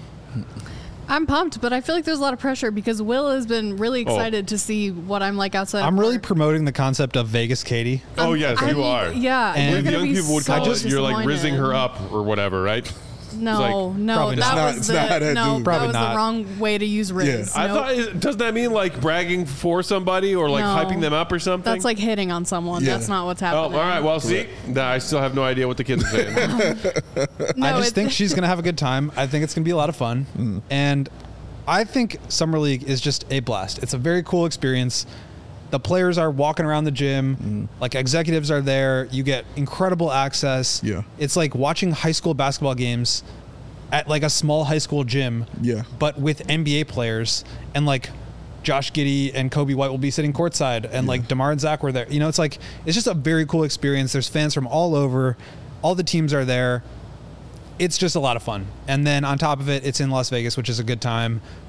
I'm pumped, but I feel like there's a lot of pressure because Will has been really excited to see what I'm like outside. I'm of really work. promoting the concept of Vegas Katie. Oh, yes, I you mean, are. Yeah, And you're The gonna young be people would so call it you're like rizzing her disappointed. up or whatever, right? No, like- no, Probably that not. was It's the not how that no, dude- that Probably was not. the wrong way to use Riz. I Nope. thought, is- doesn't that mean like bragging for somebody or like No. hyping them up or something? That's like hitting on someone. Yeah. That's not what's Oh, happening. all right. Well, see, nah, I still have no idea what the kids are saying. No, I just it- think she's going to have a good time. I think it's going to be a lot of fun. Mm. And I think Summer League is just a blast. It's a very cool experience. The players are walking around the gym. Mm. Like executives are there. You get incredible access. Yeah. It's like watching high school basketball games at like a small high school gym. Yeah. But with N B A players, and like Josh Giddey and Kobe White will be sitting courtside, and like DeMar and Zach were there. You know, it's like it's just a very cool experience. There's fans from all over. All the teams are there. It's just a lot of fun. And then on top of it, it's in Las Vegas, which is a good time.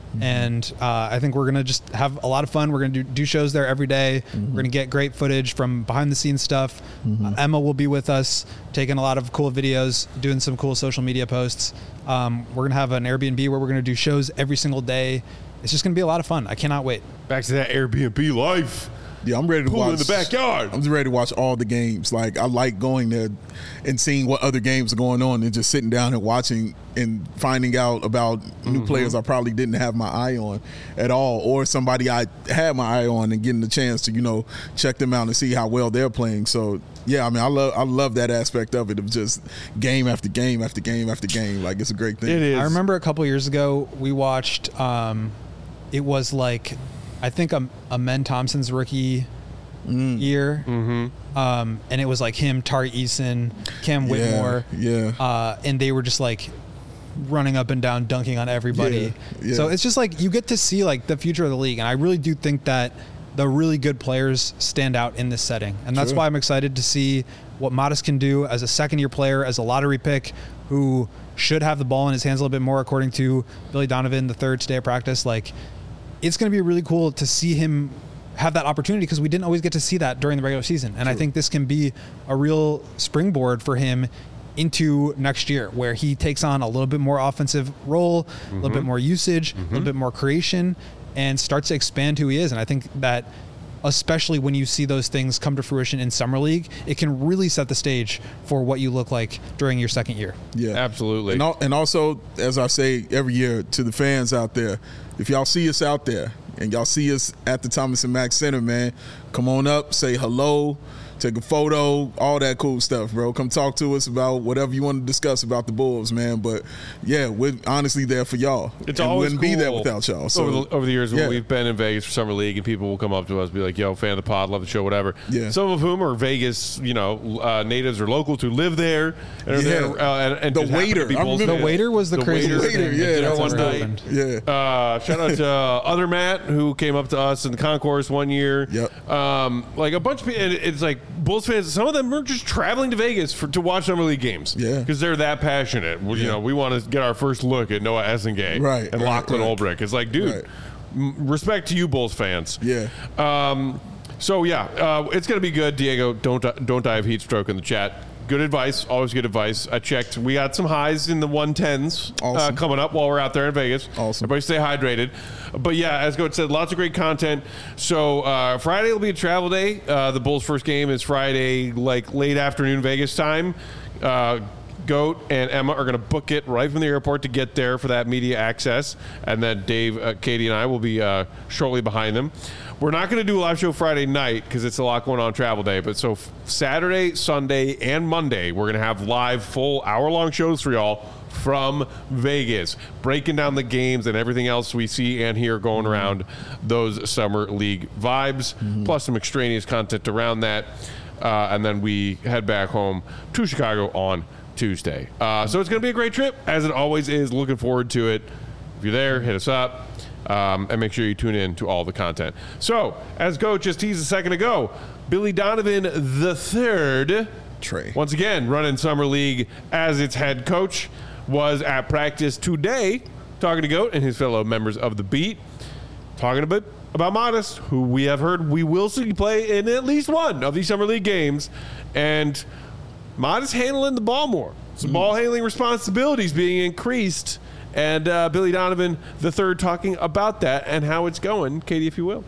Mm-hmm. And uh, I think we're going to just have a lot of fun. We're going to do, do shows there every day. Mm-hmm. We're going to get great footage from behind the scenes stuff. Mm-hmm. Uh, Emma will be with us, taking a lot of cool videos, doing some cool social media posts. Um, we're going to have an Airbnb where we're going to do shows every single day. It's just going to be a lot of fun. I cannot wait. Back to that Airbnb life. Yeah, I'm ready to Pool watch in the backyard. I'm just ready to watch all the games. Like, I like going there and seeing what other games are going on and just sitting down and watching and finding out about mm-hmm. new players I probably didn't have my eye on at all, or somebody I had my eye on and getting the chance to, you know, check them out and see how well they're playing. So, yeah, I mean, I love I love that aspect of it, of just game after game after game after game. Like, it's a great thing. It is. I remember a couple years ago we watched, um, it was like, I think a, a Men Thompson's rookie mm. year, mm-hmm. um, and it was like him, Tari Eason, Cam Whitmore, yeah, yeah. Uh, and they were just like running up and down, dunking on everybody. Yeah, yeah. So it's just like you get to see like the future of the league, and I really do think that the really good players stand out in this setting, and that's True. why I'm excited to see what Modest can do as a second-year player, as a lottery pick who should have the ball in his hands a little bit more, according to Billy Donovan the third today at practice. Like, it's going to be really cool to see him have that opportunity, because we didn't always get to see that during the regular season. And True. I think this can be a real springboard for him into next year, where he takes on a little bit more offensive role, mm-hmm. a little bit more usage, mm-hmm. a little bit more creation, and starts to expand who he is. And I think that, especially when you see those things come to fruition in Summer League, it can really set the stage for what you look like during your second year. Yeah, absolutely. And, al- and also, as I say every year to the fans out there, if y'all see us out there and y'all see us at the Thomas and Mack Center, man, come on up, say hello, take a photo, all that cool stuff, bro. Come talk to us about whatever you want to discuss about the Bulls, man. But yeah, we're honestly there for y'all. It's and always wouldn't cool be there without y'all. So over the, over the years, yeah. when we've been in Vegas for Summer League, and people will come up to us, and be like, "Yo, fan of the pod, love the show, whatever." Yeah. Some of whom are Vegas, you know, uh, natives or locals who live there and are Yeah. there. Uh, and, and The just happen to waiter. be I Bulls remember- fans. The waiter was the, The craziest waiter, thing. yeah, that that's one ever night. happened. Yeah. Uh, shout out to uh, other Matt, who came up to us in the concourse one year. Yep. Um, like a bunch of people. And it's like Bulls fans. Some of them are just traveling to Vegas for to watch Summer League games. Yeah. Because they're that passionate. Well, You Yeah. know, we want to get our first look at Noah Essengate Right, and right, Lachlan right. Olbrich. It's like, dude, Right. m- respect to you, Bulls fans. Yeah. Um, so yeah, uh, it's gonna be good. Diego, don't don't die of heat stroke in the chat. Good advice, always good advice. I checked. We got some highs in the one tens uh, Awesome. coming up while we're out there in Vegas. Awesome. Everybody stay hydrated. But yeah, as Goat said, lots of great content. So uh, Friday will be a travel day. Uh, the Bulls' first game is Friday, like late afternoon Vegas time. Uh, Goat and Emma are going to book it right from the airport to get there for that media access. And then Dave, uh, Katie, and I will be uh, shortly behind them. We're not going to do a live show Friday night because it's a lot going on travel day. But so f- Saturday, Sunday, and Monday, we're going to have live full hour-long shows for y'all from Vegas, breaking down the games and everything else we see and hear going around those Summer League vibes, mm-hmm. plus some extraneous content around that. Uh, and then we head back home to Chicago on Tuesday. Uh, so it's going to be a great trip, as it always is. Looking forward to it. If you're there, hit us up. Um, and make sure you tune in to all the content. So, as Goat just teased a second ago, Billy Donovan the third, Trey. once again running Summer League as its head coach, was at practice today talking to Goat and his fellow members of the beat, talking a bit about Modest, who we have heard we will see play in at least one of these Summer League games, and Modest handling the ball more. Some mm. ball handling responsibilities being increased. And uh, Billy Donovan the third talking about that and how it's going. Katie, if you will.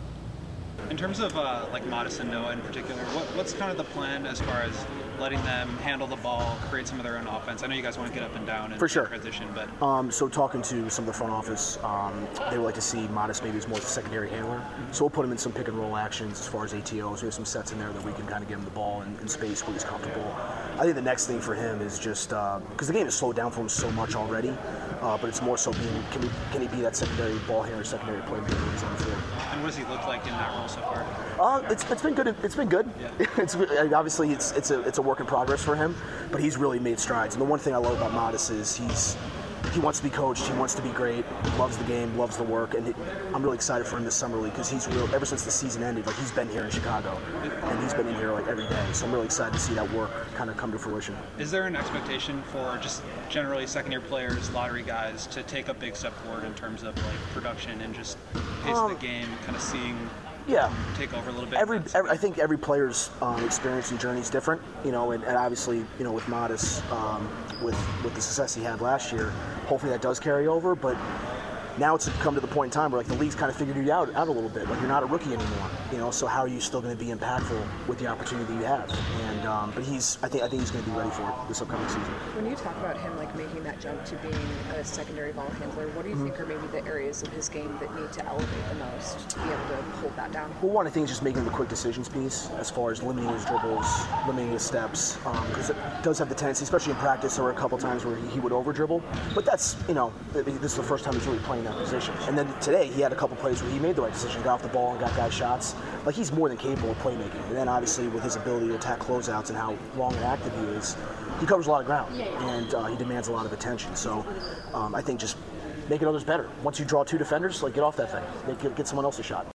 In terms of uh, like Modest and Noah in particular, what, what's kind of the plan as far as letting them handle the ball, create some of their own offense? I know you guys want to get up and down and For sure. transition, but Um, so talking to some of the front office, um, they would like to see Modest maybe as more as a secondary handler. So we'll put him in some pick and roll actions as far as A T Os. We have some sets in there that we can kind of get him the ball in, in space where he's comfortable. I think the next thing for him is just because uh, the game has slowed down for him so much already, uh, but it's more so being can he can he be that secondary ball handler, secondary playmaker when he's on the field. and what does he look like in that role so far? Uh, it's, it's been good. It's been good. Yeah. It's obviously it's it's a it's a work in progress for him, but he's really made strides. And the one thing I love about Modest is he's he wants to be coached. He wants to be great. Loves the game. Loves the work. And it, I'm really excited for him this summer league because he's real. Ever since the season ended, like he's been here in Chicago, and he's been in here like every day. So I'm really excited to see that work kind of come to fruition. Is there an expectation for just generally second-year players, lottery guys, to take a big step forward in terms of like production and just pace Um, of the game, kind of seeing Yeah. take over a little bit? Every, every I think every player's um, experience and journey is different, you know, and, and obviously, you know, with Modest, um, with with the success he had last year, hopefully that does carry over. But now it's come to the point in time where like the league's kind of figured you out out a little bit. Like you're not a rookie anymore, you know. So how are you still going to be impactful with the opportunity that you have? And um, but he's I think I think he's going to be ready for it this upcoming season. When you talk about him like making that jump to being a secondary ball handler, what do you mm-hmm. think are maybe the areas of his game that need to elevate the most to be able to hold that down? Well, one I think is just making the quick decisions piece as far as limiting his dribbles, limiting his steps, because um, it does have the tendency, especially in practice, there were a couple times where he, he would over dribble. But that's you know this is the first time he's really playing that position. And then today he had a couple plays where he made the right decision, got off the ball and got guys shots. Like he's more than capable of playmaking. And then obviously with his ability to attack closeouts and how long and active he is, he covers a lot of ground and uh, he demands a lot of attention. So um, I think just making others better. Once you draw two defenders, like get off that thing, get, get someone else a shot.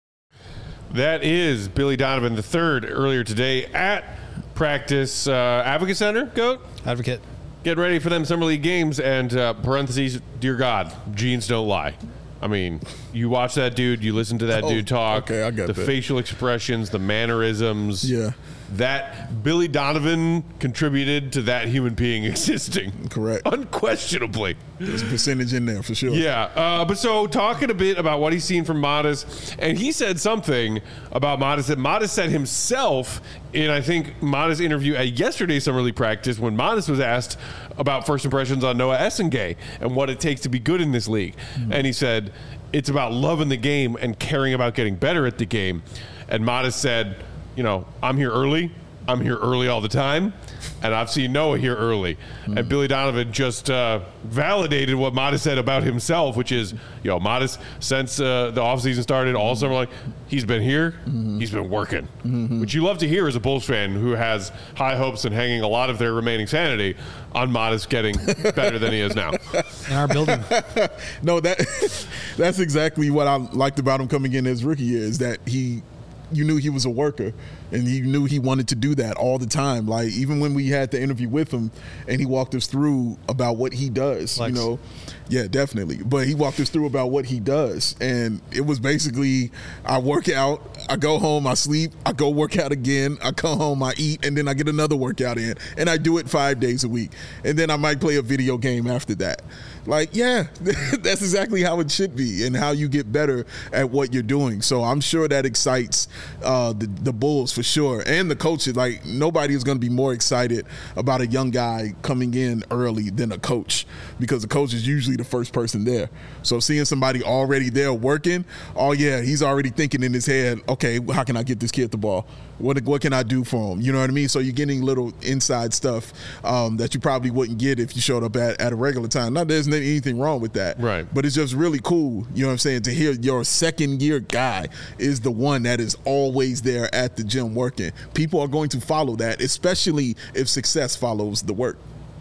That is Billy Donovan the third earlier today at practice uh, Advocate Center. Goat Advocate. Get ready for them summer league games and uh, parentheses. Dear God, genes don't lie. I mean, you watch that dude, you listen to that Oh, dude talk. okay, I got the that. facial expressions, the mannerisms. Yeah. That Billy Donovan contributed to that human being existing. Correct. Unquestionably. There's a percentage in there for sure. Yeah, uh, but so talking a bit about what he's seen from Modest, and he said something about Modest that Modest said himself in, I think, Modest's interview at yesterday's Summer League practice when Modest was asked about first impressions on Noah Essengay and what it takes to be good in this league. Mm-hmm. And he said, it's about loving the game and caring about getting better at the game. And Modest said, you know, I'm here early. I'm here early all the time. And I've seen Noah here early. Mm-hmm. And Billy Donovan just uh, validated what Modest said about himself, which is, you know, Modest, since uh, the offseason started all summer, like, he's been here, mm-hmm. he's been working. Mm-hmm. Which you love to hear as a Bulls fan who has high hopes and hanging a lot of their remaining sanity on Modest getting better than he is now. In our building. No, that that's exactly what I liked about him coming in his rookie year is that he you knew he was a worker and he knew he wanted to do that all the time. Like even when we had the interview with him and he walked us through about what he does, Lex. you know, yeah, definitely. But he walked us through about what he does. And it was basically, I work out, I go home, I sleep, I go work out again, I come home, I eat, and then I get another workout in. And I do it five days a week. And then I might play a video game after that. Like, yeah, that's exactly how it should be and how you get better at what you're doing. So I'm sure that excites uh, the, the Bulls for sure and the coaches. Like, nobody is going to be more excited about a young guy coming in early than a coach because the coach is usually the first person there. So seeing somebody already there working, oh, yeah, he's already thinking in his head, okay, how can I get this kid the ball? What what can I do for him? You know what I mean? So you're getting little inside stuff um, that you probably wouldn't get if you showed up at, at a regular time. Not there's anything wrong with that. Right. But it's just really cool, you know what I'm saying, to hear your second year guy is the one that is always there at the gym working. People are going to follow that, especially if success follows the work.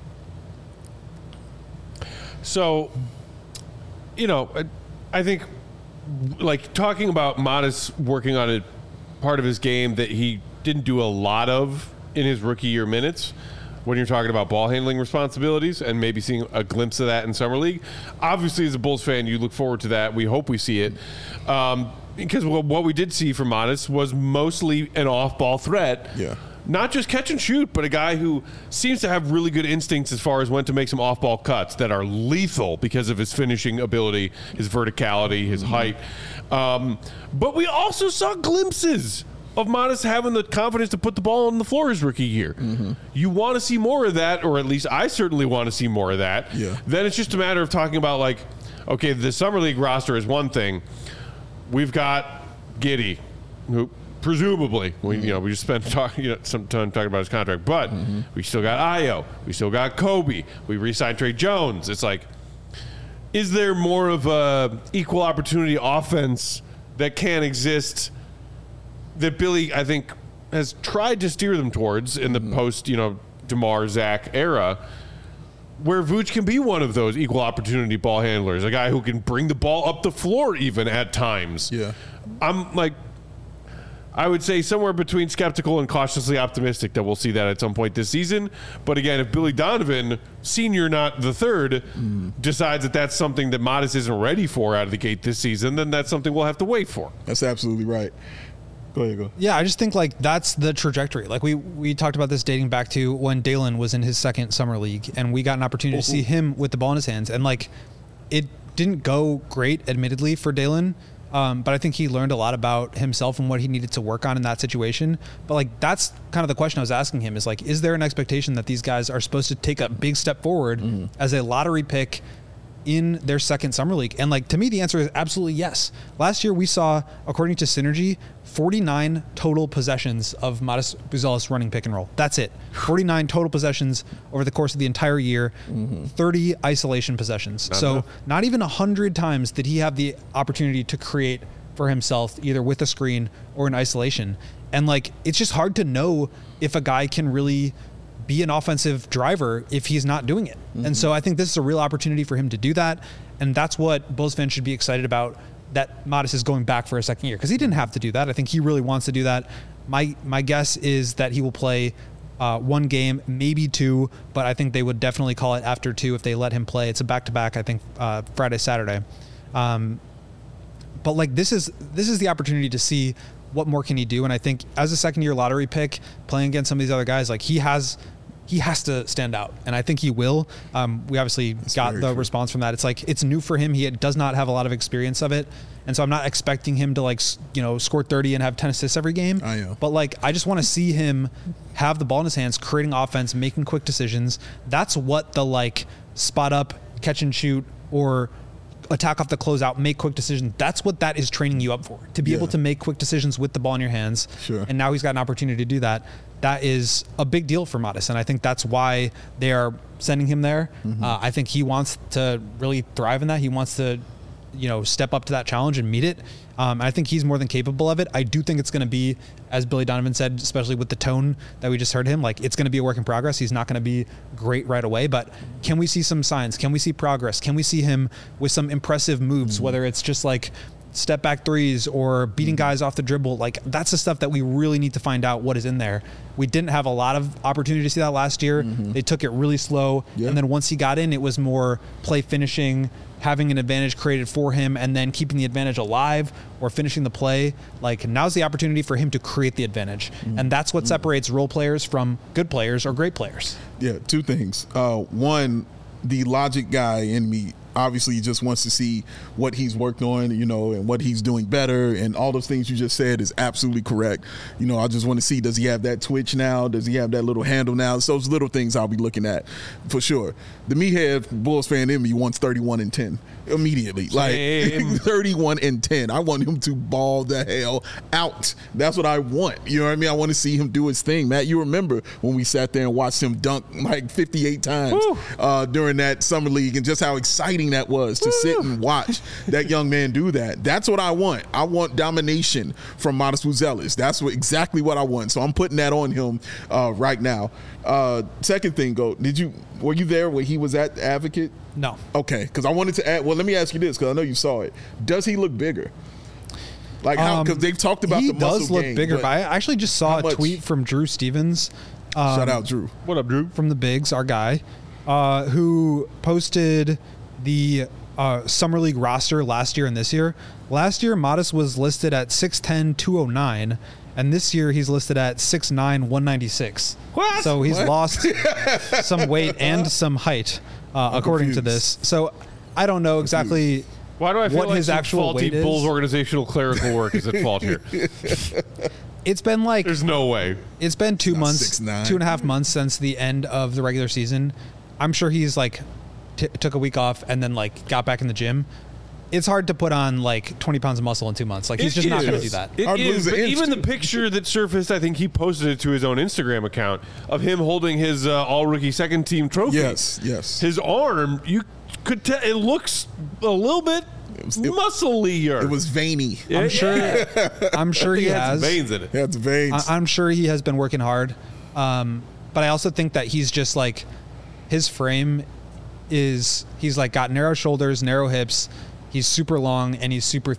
So, you know, I think like talking about Modest working on a part of his game that he didn't do a lot of in his rookie year minutes when you're talking about ball handling responsibilities and maybe seeing a glimpse of that in Summer League. Obviously, as a Bulls fan, you look forward to that. We hope we see it. Um, because what we did see from Modest was mostly an off-ball threat. Yeah. Not just catch and shoot, but a guy who seems to have really good instincts as far as when to make some off-ball cuts that are lethal because of his finishing ability, his verticality, his mm-hmm. height. Um, but we also saw glimpses of Modest having the confidence to put the ball on the floor his rookie year. Mm-hmm. You want to see more of that, or at least I certainly want to see more of that. Yeah. Then it's just a matter of talking about, like, okay, the Summer League roster is one thing. We've got Giddey, who presumably, mm-hmm. we, you know, we just spent talk, you know, some time talking about his contract, but mm-hmm. we still got Ayo, we still got Kobe, we re-signed Trey Jones. It's like, is there more of a equal opportunity offense that can exist that Billy, I think, has tried to steer them towards in the mm-hmm. post, you know, DeMar, Zach era? where Vooch can be one of those equal opportunity ball handlers, a guy who can bring the ball up the floor even at times. Yeah. I'm like, I would say somewhere between skeptical and cautiously optimistic that we'll see that at some point this season. But again, if Billy Donovan, senior not the third, mm. decides that that's something that Modest isn't ready for out of the gate this season, then that's something we'll have to wait for. That's absolutely right. Go ahead, go. Yeah, I just think like that's the trajectory. Like we we talked about this dating back to when Dalen was in his second summer league, and we got an opportunity to see him with the ball in his hands, and like it didn't go great, admittedly, for Dalen. Um, but I think he learned a lot about himself and what he needed to work on in that situation. But like that's kind of the question I was asking him is like, is there an expectation that these guys are supposed to take a big step forward mm. as a lottery pick in their second summer league? And like to me, the answer is absolutely yes. Last year we saw, according to Synergy, forty-nine total possessions of Modest Buzelis running pick and roll. That's it. forty-nine total possessions over the course of the entire year, mm-hmm. thirty isolation possessions. Not so enough. Not even one hundred times did he have the opportunity to create for himself, either with a screen or in isolation. And like, it's just hard to know if a guy can really be an offensive driver if he's not doing it. Mm-hmm. And so I think this is a real opportunity for him to do that. And that's what Bulls fans should be excited about, that Modest is going back for a second year, because he didn't have to do that. I think he really wants to do that. My my guess is that he will play uh, one game, maybe two, but I think they would definitely call it after two if they let him play. It's a back-to-back, I think, uh, Friday, Saturday. Um, but like this is this is the opportunity to see what more can he do. And I think as a second-year lottery pick, playing against some of these other guys, like he has he has to stand out, and I think he will. Um, we obviously That's got the true. response from that. It's like it's new for him. He does not have a lot of experience of it, and so I'm not expecting him to like you know score thirty and have ten assists every game. I know. But like I just want to see him have the ball in his hands, creating offense, making quick decisions. That's what the like spot up, catch and shoot, or attack off the closeout, make quick decisions. That's what that is training you up for, to be yeah. able to make quick decisions with the ball in your hands. Sure. And now he's got an opportunity to do that. That is a big deal for Modest, and I think that's why they are sending him there. Mm-hmm. Uh, I think he wants to really thrive in that. He wants to, you know, step up to that challenge and meet it. Um, I think he's more than capable of it. I do think it's going to be, as Billy Donovan said, especially with the tone that we just heard him, like it's going to be a work in progress. He's not going to be great right away, but can we see some signs? Can we see progress? Can we see him with some impressive moves, mm-hmm. whether it's just like step back threes or beating guys off the dribble? Like that's the stuff that we really need to find out what is in there. We didn't have a lot of opportunity to see that last year. Mm-hmm. They took it really slow. Yeah. And then once he got in, it was more play finishing, having an advantage created for him, and then keeping the advantage alive or finishing the play. Like now's the opportunity for him to create the advantage. Mm-hmm. And that's what separates role players from good players or great players. Yeah, two things. Uh, one, the logic guy in me obviously just wants to see what he's worked on, you know, and what he's doing better, and all those things you just said is absolutely correct. You know, I just want to see, does he have that twitch now? Does he have that little handle now? It's those little things I'll be looking at for sure. The meathead Bulls fan in me wants thirty-one and ten immediately. Same. Like thirty-one and ten. I want him to ball the hell out. That's what I want. You know what I mean? I want to see him do his thing. Matt, you remember when we sat there and watched him dunk like fifty-eight times uh, during that summer league, and just how exciting that was to Woo. sit and watch that young man do that. That's what I want. I want domination from Modest Buzelis. That's what exactly what I want. So I'm putting that on him uh, right now. Uh, second thing, go. Did you were you there when he was at Advocate? No. Okay, because I wanted to add. Well, let me ask you this, because I know you saw it. Does he look bigger? Like how? Because um, they've talked about he the muscle does look gain, bigger. But I actually just saw a much? tweet from Drew Stevens. Um, Shout out, Drew. What up, Drew? From the Bigs, our guy, uh, who posted the uh, Summer League roster last year and this year. Last year, Modest was listed at six ten, two oh nine, and this year he's listed at six nine, one ninety-six. What? So he's What? lost some weight and some height, uh, according confused. to this. So I don't know exactly Why do I feel what like his some actual faulty weight is. Bulls organizational clerical work is at fault here? It's been like There's no way. It's been two Not months, six nine. two and a half months since the end of the regular season. I'm sure he's like t- took a week off and then like got back in the gym. It's hard to put on like twenty pounds of muscle in two months. Like he's It just not is. going to do that. It I'd is, lose an but inch, even too. the picture that surfaced, I think he posted it to his own Instagram account of him holding his uh, all-rookie second team trophy. Yes, yes. His arm, you could tell, it looks a little bit was- it- musclier. It was veiny. I'm sure. I'm sure he He had has. some veins in it. That's veins. I, I'm sure he has been working hard, um, but I also think that he's just like his frame is he's like got narrow shoulders, narrow hips. He's super long and he's super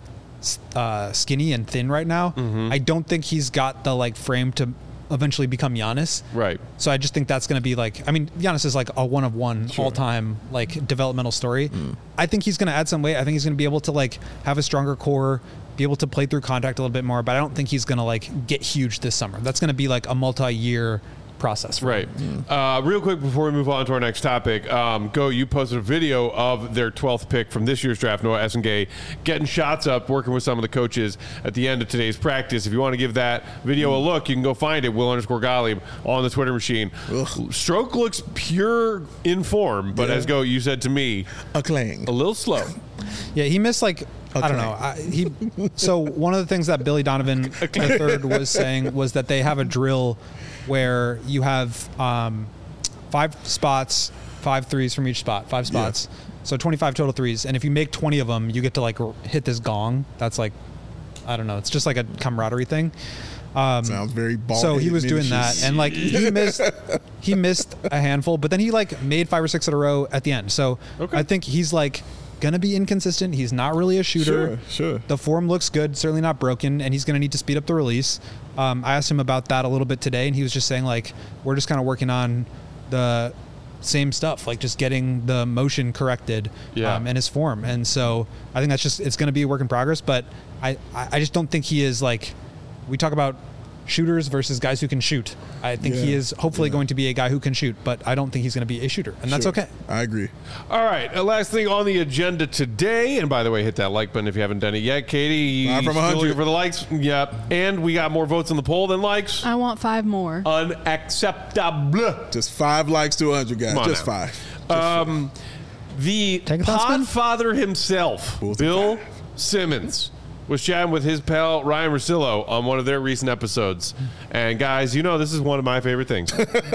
uh, skinny and thin right now. Mm-hmm. I don't think he's got the like frame to eventually become Giannis. Right. So I just think that's going to be like, I mean, Giannis is like a one of one sure. all time like developmental story. Mm. I think he's going to add some weight. I think he's going to be able to like have a stronger core, be able to play through contact a little bit more, but I don't think he's going to like get huge this summer. That's going to be like a multi-year process. Right. Mm. Uh, real quick before we move on to our next topic, um, Go, you posted a video of their twelfth pick from this year's draft, Noah Essengay, getting shots up, working with some of the coaches at the end of today's practice. If you want to give that video mm. a look, you can go find it, Will underscore Gottlieb, on the Twitter machine. Ugh. Stroke looks pure in form, but yeah. as Go, you said to me, a clang. A little slow. Yeah, he missed like, okay. I don't know. I, he So one of the things that Billy Donovan the third was saying was that they have a drill where you have um, five spots, five threes from each spot, five spots. Yeah. So twenty-five total threes. And if you make twenty of them, you get to like hit this gong. That's like, I don't know. It's just like a camaraderie thing. Um, Sounds very ball. So he was doing that, and like he missed, he missed a handful, but then he like made five or six in a row at the end. So okay. I think he's like gonna be inconsistent. He's not really a shooter. Sure, sure. The form looks good, certainly not broken, and he's gonna need to speed up the release. Um, I asked him about that a little bit today, and he was just saying like we're just kind of working on the same stuff, like just getting the motion corrected yeah. um, and his form. And so I think that's just it's gonna be a work in progress. But I I just don't think he is like we talk about shooters versus guys who can shoot. I think yeah. he is hopefully yeah. going to be a guy who can shoot, but I don't think he's going to be a shooter, and that's sure. okay. I agree. All right, uh, last thing on the agenda today, and by the way, hit that like button if you haven't done it yet. Katie, five from still one hundred looking for the likes? Yep. And we got more votes on the poll than likes. I want five more. Unacceptable. Just five likes to one hundred, guys. Just now. five. Just um, five. The podfather himself, Bulls Bill Simmons, was chatting with his pal Ryan Russillo on one of their recent episodes. And guys, you know this is one of my favorite things.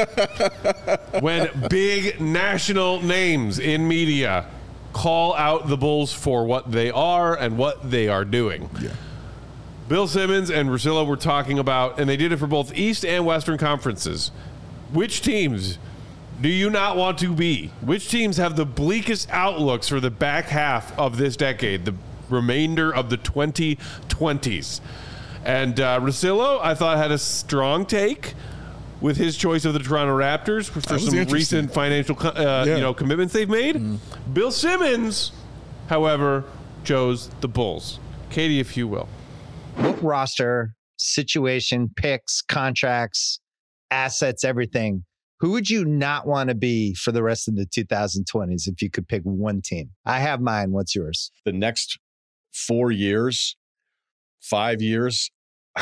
When big national names in media call out the Bulls for what they are and what they are doing. Yeah. Bill Simmons and Russillo were talking about, and they did it for both East and Western conferences, which teams do you not want to be? Which teams have the bleakest outlooks for the back half of this decade? The remainder of the twenty twenties. And uh, Russillo, I thought, had a strong take with his choice of the Toronto Raptors for, for some recent financial uh, yeah. you know, commitments they've made. Mm. Bill Simmons, however, chose the Bulls. Katie, if you will. What roster, situation, picks, contracts, assets, everything, who would you not want to be for the rest of the two thousand twenties if you could pick one team? I have mine. What's yours? The next four years, five years,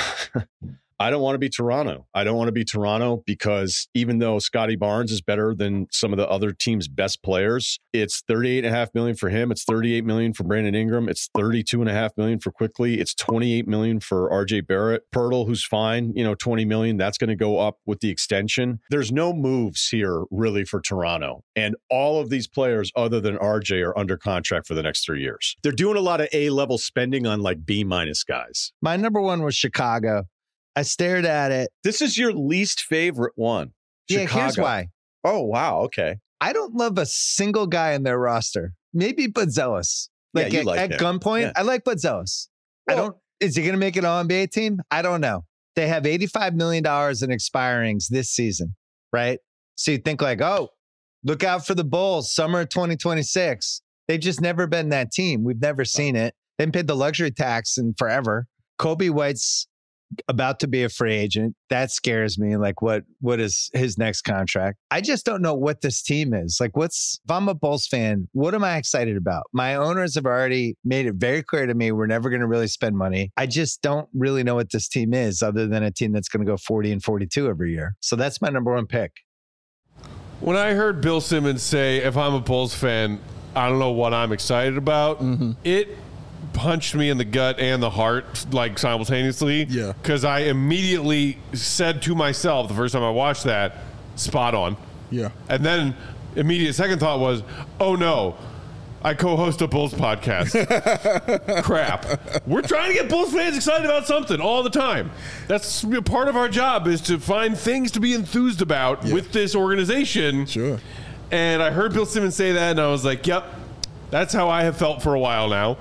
I don't want to be Toronto. I don't want to be Toronto because even though Scotty Barnes is better than some of the other team's best players, it's thirty-eight and a half million for him. It's thirty-eight million for Brandon Ingram. It's thirty-two and a half million for Quickly. It's twenty-eight million for R J Barrett. Pirtle, who's fine, you know, twenty million. That's going to go up with the extension. There's no moves here really for Toronto. And all of these players other than R J are under contract for the next three years. They're doing a lot of A-level spending on like B-minus guys. My number one was Chicago. I stared at it. This is your least favorite one. Yeah, Chicago. Here's why. Oh, wow. Okay. I don't love a single guy in their roster. Maybe Buzelis. Like, yeah, at, like at gunpoint, yeah. I like Buzelis. Well, I don't. Is he going to make an All N B A team? I don't know. They have eighty-five million dollars in expirings this season, right? So you think like, oh, look out for the Bulls, summer of twenty twenty-six. They've just never been that team. We've never seen it. They haven't paid the luxury tax in forever. Kobe White's about to be a free agent. That scares me. Like, what what is his next contract? I just don't know what this team is. Like, what's, if I'm a Bulls fan, what am I excited about? My owners have already made it very clear to me we're never going to really spend money. I just don't really know what this team is other than a team that's going to go forty and forty-two every year. So that's my number one pick. When I heard Bill Simmons say, if I'm a Bulls fan, I don't know what I'm excited about, mm-hmm. it punched me in the gut and the heart like simultaneously. Yeah. Because I immediately said to myself the first time I watched that, spot on. Yeah. And then immediate second thought was, oh no, I co-host a Bulls podcast. Crap. We're trying to get Bulls fans excited about something all the time. That's part of our job, is to find things to be enthused about yeah. with this organization. Sure. And I heard Bill Simmons say that, and I was like, yep, that's how I have felt for a while now.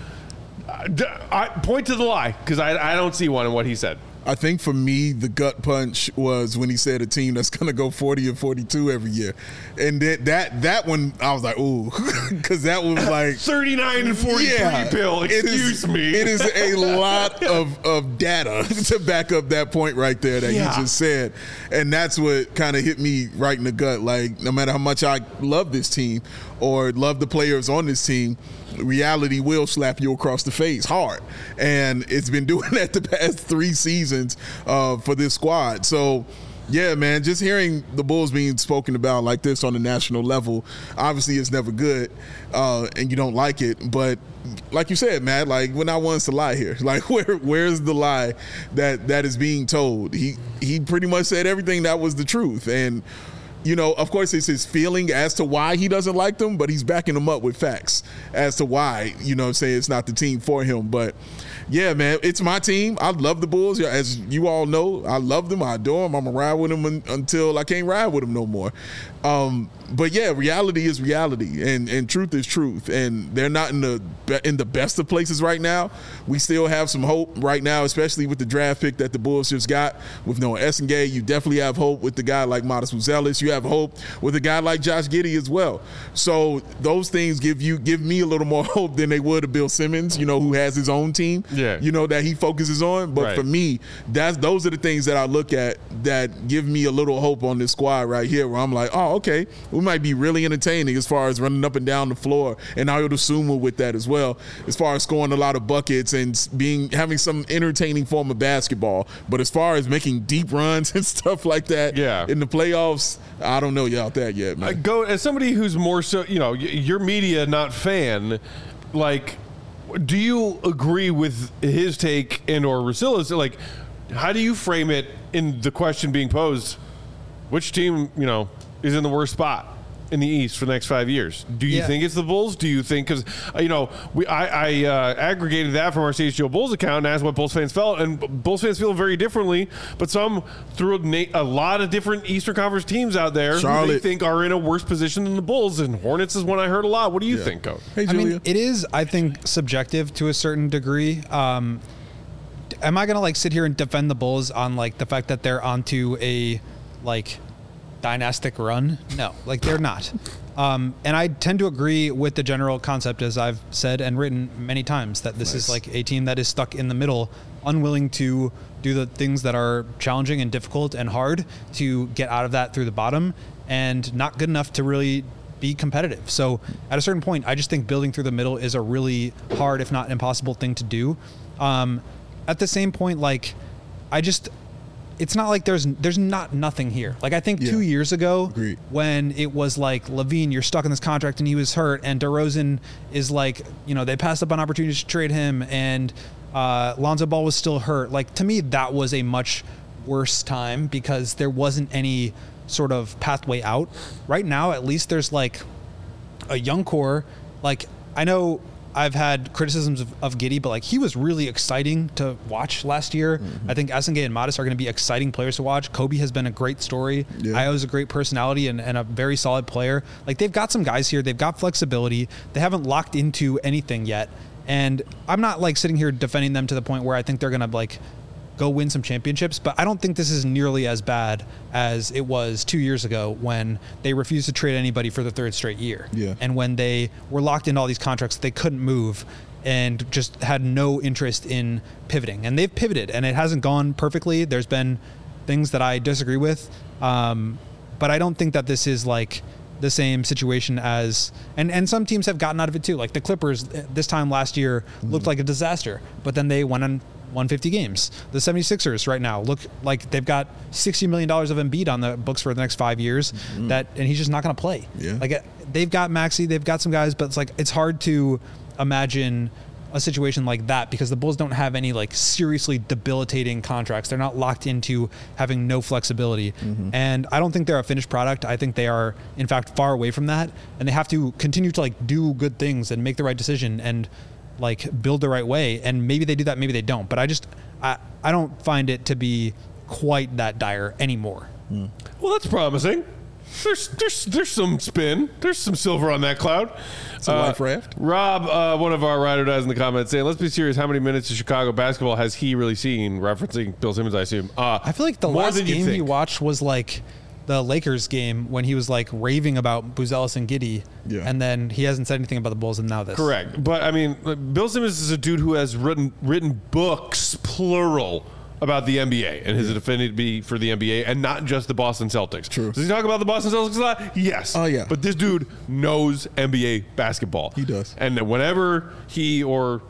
I, point to the lie, because I, I don't see one in what he said. I think for me, the gut punch was when he said a team that's going to go forty or forty-two every year. And that that, that one, I was like, ooh, because that was like thirty-nine and forty-three, yeah, Bill. Excuse it is, me. It is a lot of, of data to back up that point right there that yeah. you just said. And that's what kind of hit me right in the gut. Like, no matter how much I love this team or love the players on this team, reality will slap you across the face hard. And it's been doing that the past three seasons uh, for this squad. So, yeah, man, just hearing the Bulls being spoken about like this on the national level, obviously it's never good uh, and you don't like it. But like you said, Matt, like we're not ones to lie here. Like where where's the lie that, that is being told? He, he pretty much said everything that was the truth. And you know, of course, it's his feeling as to why he doesn't like them, but he's backing them up with facts as to why, you know what I'm saying, it's not the team for him. But, yeah, man, it's my team. I love the Bulls. As you all know, I love them. I adore them. I'm going to ride with them un- until I can't ride with them no more. Um, but, yeah, reality is reality, and, and truth is truth. And they're not in the in the best of places right now. We still have some hope right now, especially with the draft pick that the Bulls just got with Noah Essengay. You definitely have hope with the guy like Modest Buzelis. You have hope with a guy like Josh Giddey as well. So those things give you give me a little more hope than they would a Bill Simmons, you know, who has his own team, yeah. you know, that he focuses on. But right. for me, that's those are the things that I look at that give me a little hope on this squad right here, where I'm like, oh, okay, we might be really entertaining as far as running up and down the floor, and Ayo Dosunmu with that as well, as far as scoring a lot of buckets and being having some entertaining form of basketball. But as far as making deep runs and stuff like that yeah. in the playoffs, I don't know about that yet, man. I go as somebody who's more so, you know, you're media, not fan. Like, do you agree with his take and or Rusilla's? Like, how do you frame it in the question being posed? Which team, you know, is in the worst spot in the East for the next five years? Do you yeah. think it's the Bulls? Do you think, because, you know, we I, I uh, aggregated that from our C H G O Bulls account and asked what Bulls fans felt, and Bulls fans feel very differently, but some threw a, a lot of different Eastern Conference teams out there Charlotte. who they think are in a worse position than the Bulls, and Hornets is one I heard a lot. What do you yeah. think, Coach? Hey, I Julia. mean, it is, I think, subjective to a certain degree. Um, am I going to, like, sit here and defend the Bulls on, like, the fact that they're onto a, like, dynastic run? No, like they're not. Um, and I tend to agree with the general concept, as I've said and written many times, that this nice. is like a team that is stuck in the middle, unwilling to do the things that are challenging and difficult and hard to get out of that through the bottom, and not good enough to really be competitive. So at a certain point, I just think building through the middle is a really hard, if not impossible, thing to do. Um, at the same point, like, I just, it's not like there's there's not nothing here. Like, I think Yeah. two years ago, Agreed. when it was like, Levine, you're stuck in this contract and he was hurt, and DeRozan is like, you know, they passed up on opportunities to trade him, and uh, Lonzo Ball was still hurt. Like, to me, that was a much worse time because there wasn't any sort of pathway out. Right now, at least there's like a young core. Like, I know I've had criticisms of, of Giddey, but like, he was really exciting to watch last year. Mm-hmm. I think Essengay and Modest are going to be exciting players to watch. Kobe has been a great story. Yeah. Ayo's a great personality and, and a very solid player. Like, they've got some guys here. They've got flexibility. They haven't locked into anything yet. And I'm not like sitting here defending them to the point where I think they're going to like go win some championships, but I don't think this is nearly as bad as it was two years ago when they refused to trade anybody for the third straight year. Yeah. And when they were locked into all these contracts, they couldn't move and just had no interest in pivoting. And they've pivoted, and it hasn't gone perfectly. There's been things that I disagree with, um, but I don't think that this is like the same situation as, and, and some teams have gotten out of it too. Like the Clippers this time last year looked mm. like a disaster, but then they went on one hundred fifty games. The seventy-sixers right now look like they've got sixty million dollars of Embiid on the books for the next five years mm. that, and he's just not going to play. Yeah. Like, they've got Maxey, they've got some guys, but it's like, it's hard to imagine a situation like that because the Bulls don't have any like seriously debilitating contracts. They're not locked into having no flexibility. Mm-hmm. And I don't think they're a finished product. I think they are, in fact, far away from that. And they have to continue to like do good things and make the right decision and like build the right way. And maybe they do that, maybe they don't. But I just, I, I don't find it to be quite that dire anymore. Mm. Well, that's promising. there's there's there's some spin. There's some silver on that cloud. It's a life raft. Rob, uh, one of our ride or dies in the comments, saying, "Let's be serious. How many minutes of Chicago basketball has he really seen?" Referencing Bill Simmons, I assume. Uh, I feel like the more last than you game he think. watched was like the Lakers game when he was like raving about Buzelis and Giddey, Yeah. and then he hasn't said anything about the Bulls, and now this. Correct, but I mean, Bill Simmons is a dude who has written written books, plural, about the N B A and his affinity for the N B A, and not just the Boston Celtics. True. Does he talk about the Boston Celtics a lot? Yes. Oh, yeah. But this dude knows N B A basketball. He does. And whenever he or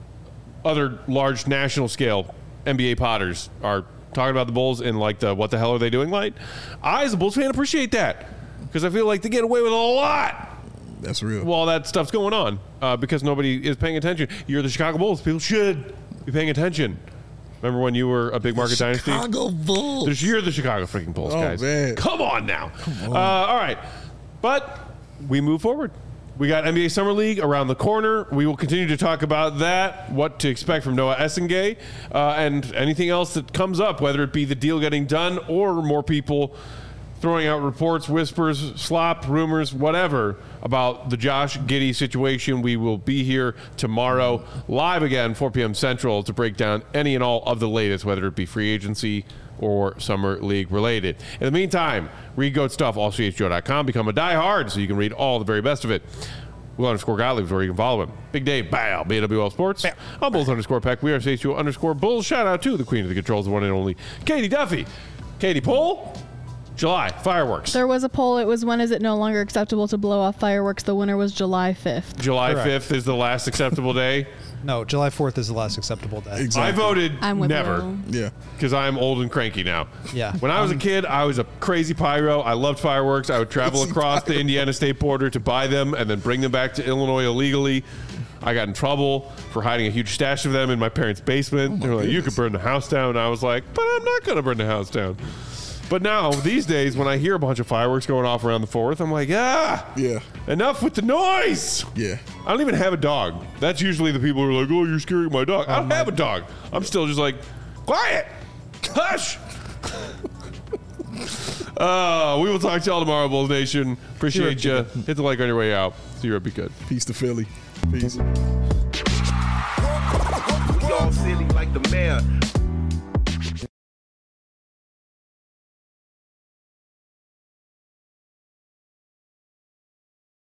other large national scale N B A potters are talking about the Bulls in like the what the hell are they doing light, I as a Bulls fan appreciate that because I feel like they get away with a lot That's real. while that stuff's going on uh, because nobody is paying attention. You're the Chicago Bulls. People should be paying attention. Remember when you were a big market dynasty? Chicago Bulls. There's- You're the Chicago freaking Bulls, Oh, guys. man. Come on now. Uh, all right. But we move forward. We got N B A Summer League around the corner. We will continue to talk about that, what to expect from Noah Essengay, uh, and anything else that comes up, whether it be the deal getting done or more people throwing out reports, whispers, slop, rumors, whatever about the Josh Giddey situation. We will be here tomorrow live again, four p.m. Central, to break down any and all of the latest, whether it be free agency or Summer League related. In the meantime, read Goat Stuff, all C H G O dot com. Become a diehard so you can read all the very best of it. Will underscore Gottlieb is where you can follow him. Big Dave, bow, B W L Sports. Bow. I'm Bulls underscore Peck. We are C H G O underscore Bulls. Shout out to the queen of the controls, the one and only Katie Duffy. Katie, poll? July, fireworks. There was a poll. It was when is it no longer acceptable to blow off fireworks? The winner was July fifth. July Correct. fifth is the last acceptable day. No, July fourth is the last acceptable day. Exactly. I voted I'm with never Will. Yeah. because I'm old and cranky now. Yeah. When I was Um, a kid, I was a crazy pyro. I loved fireworks. I would travel Crazy across the pyro. Indiana state border to buy them and then bring them back to Illinois illegally. I got in trouble for hiding a huge stash of them in my parents' basement. they were like, "You could burn the house down." And I was like, "But I'm not going to burn the house down." But now, these days, when I hear a bunch of fireworks going off around the fourth, I'm like, ah, Yeah. enough with the noise. Yeah. I don't even have a dog. That's usually the people who are like, "Oh, you're scaring my dog." I don't have a dog. I'm still just like, quiet, hush. uh, we will talk to y'all tomorrow, Bulls Nation. Appreciate you. Hit the like on your way out. See you. Be good. Peace to Philly. Peace. We all silly like the mayor.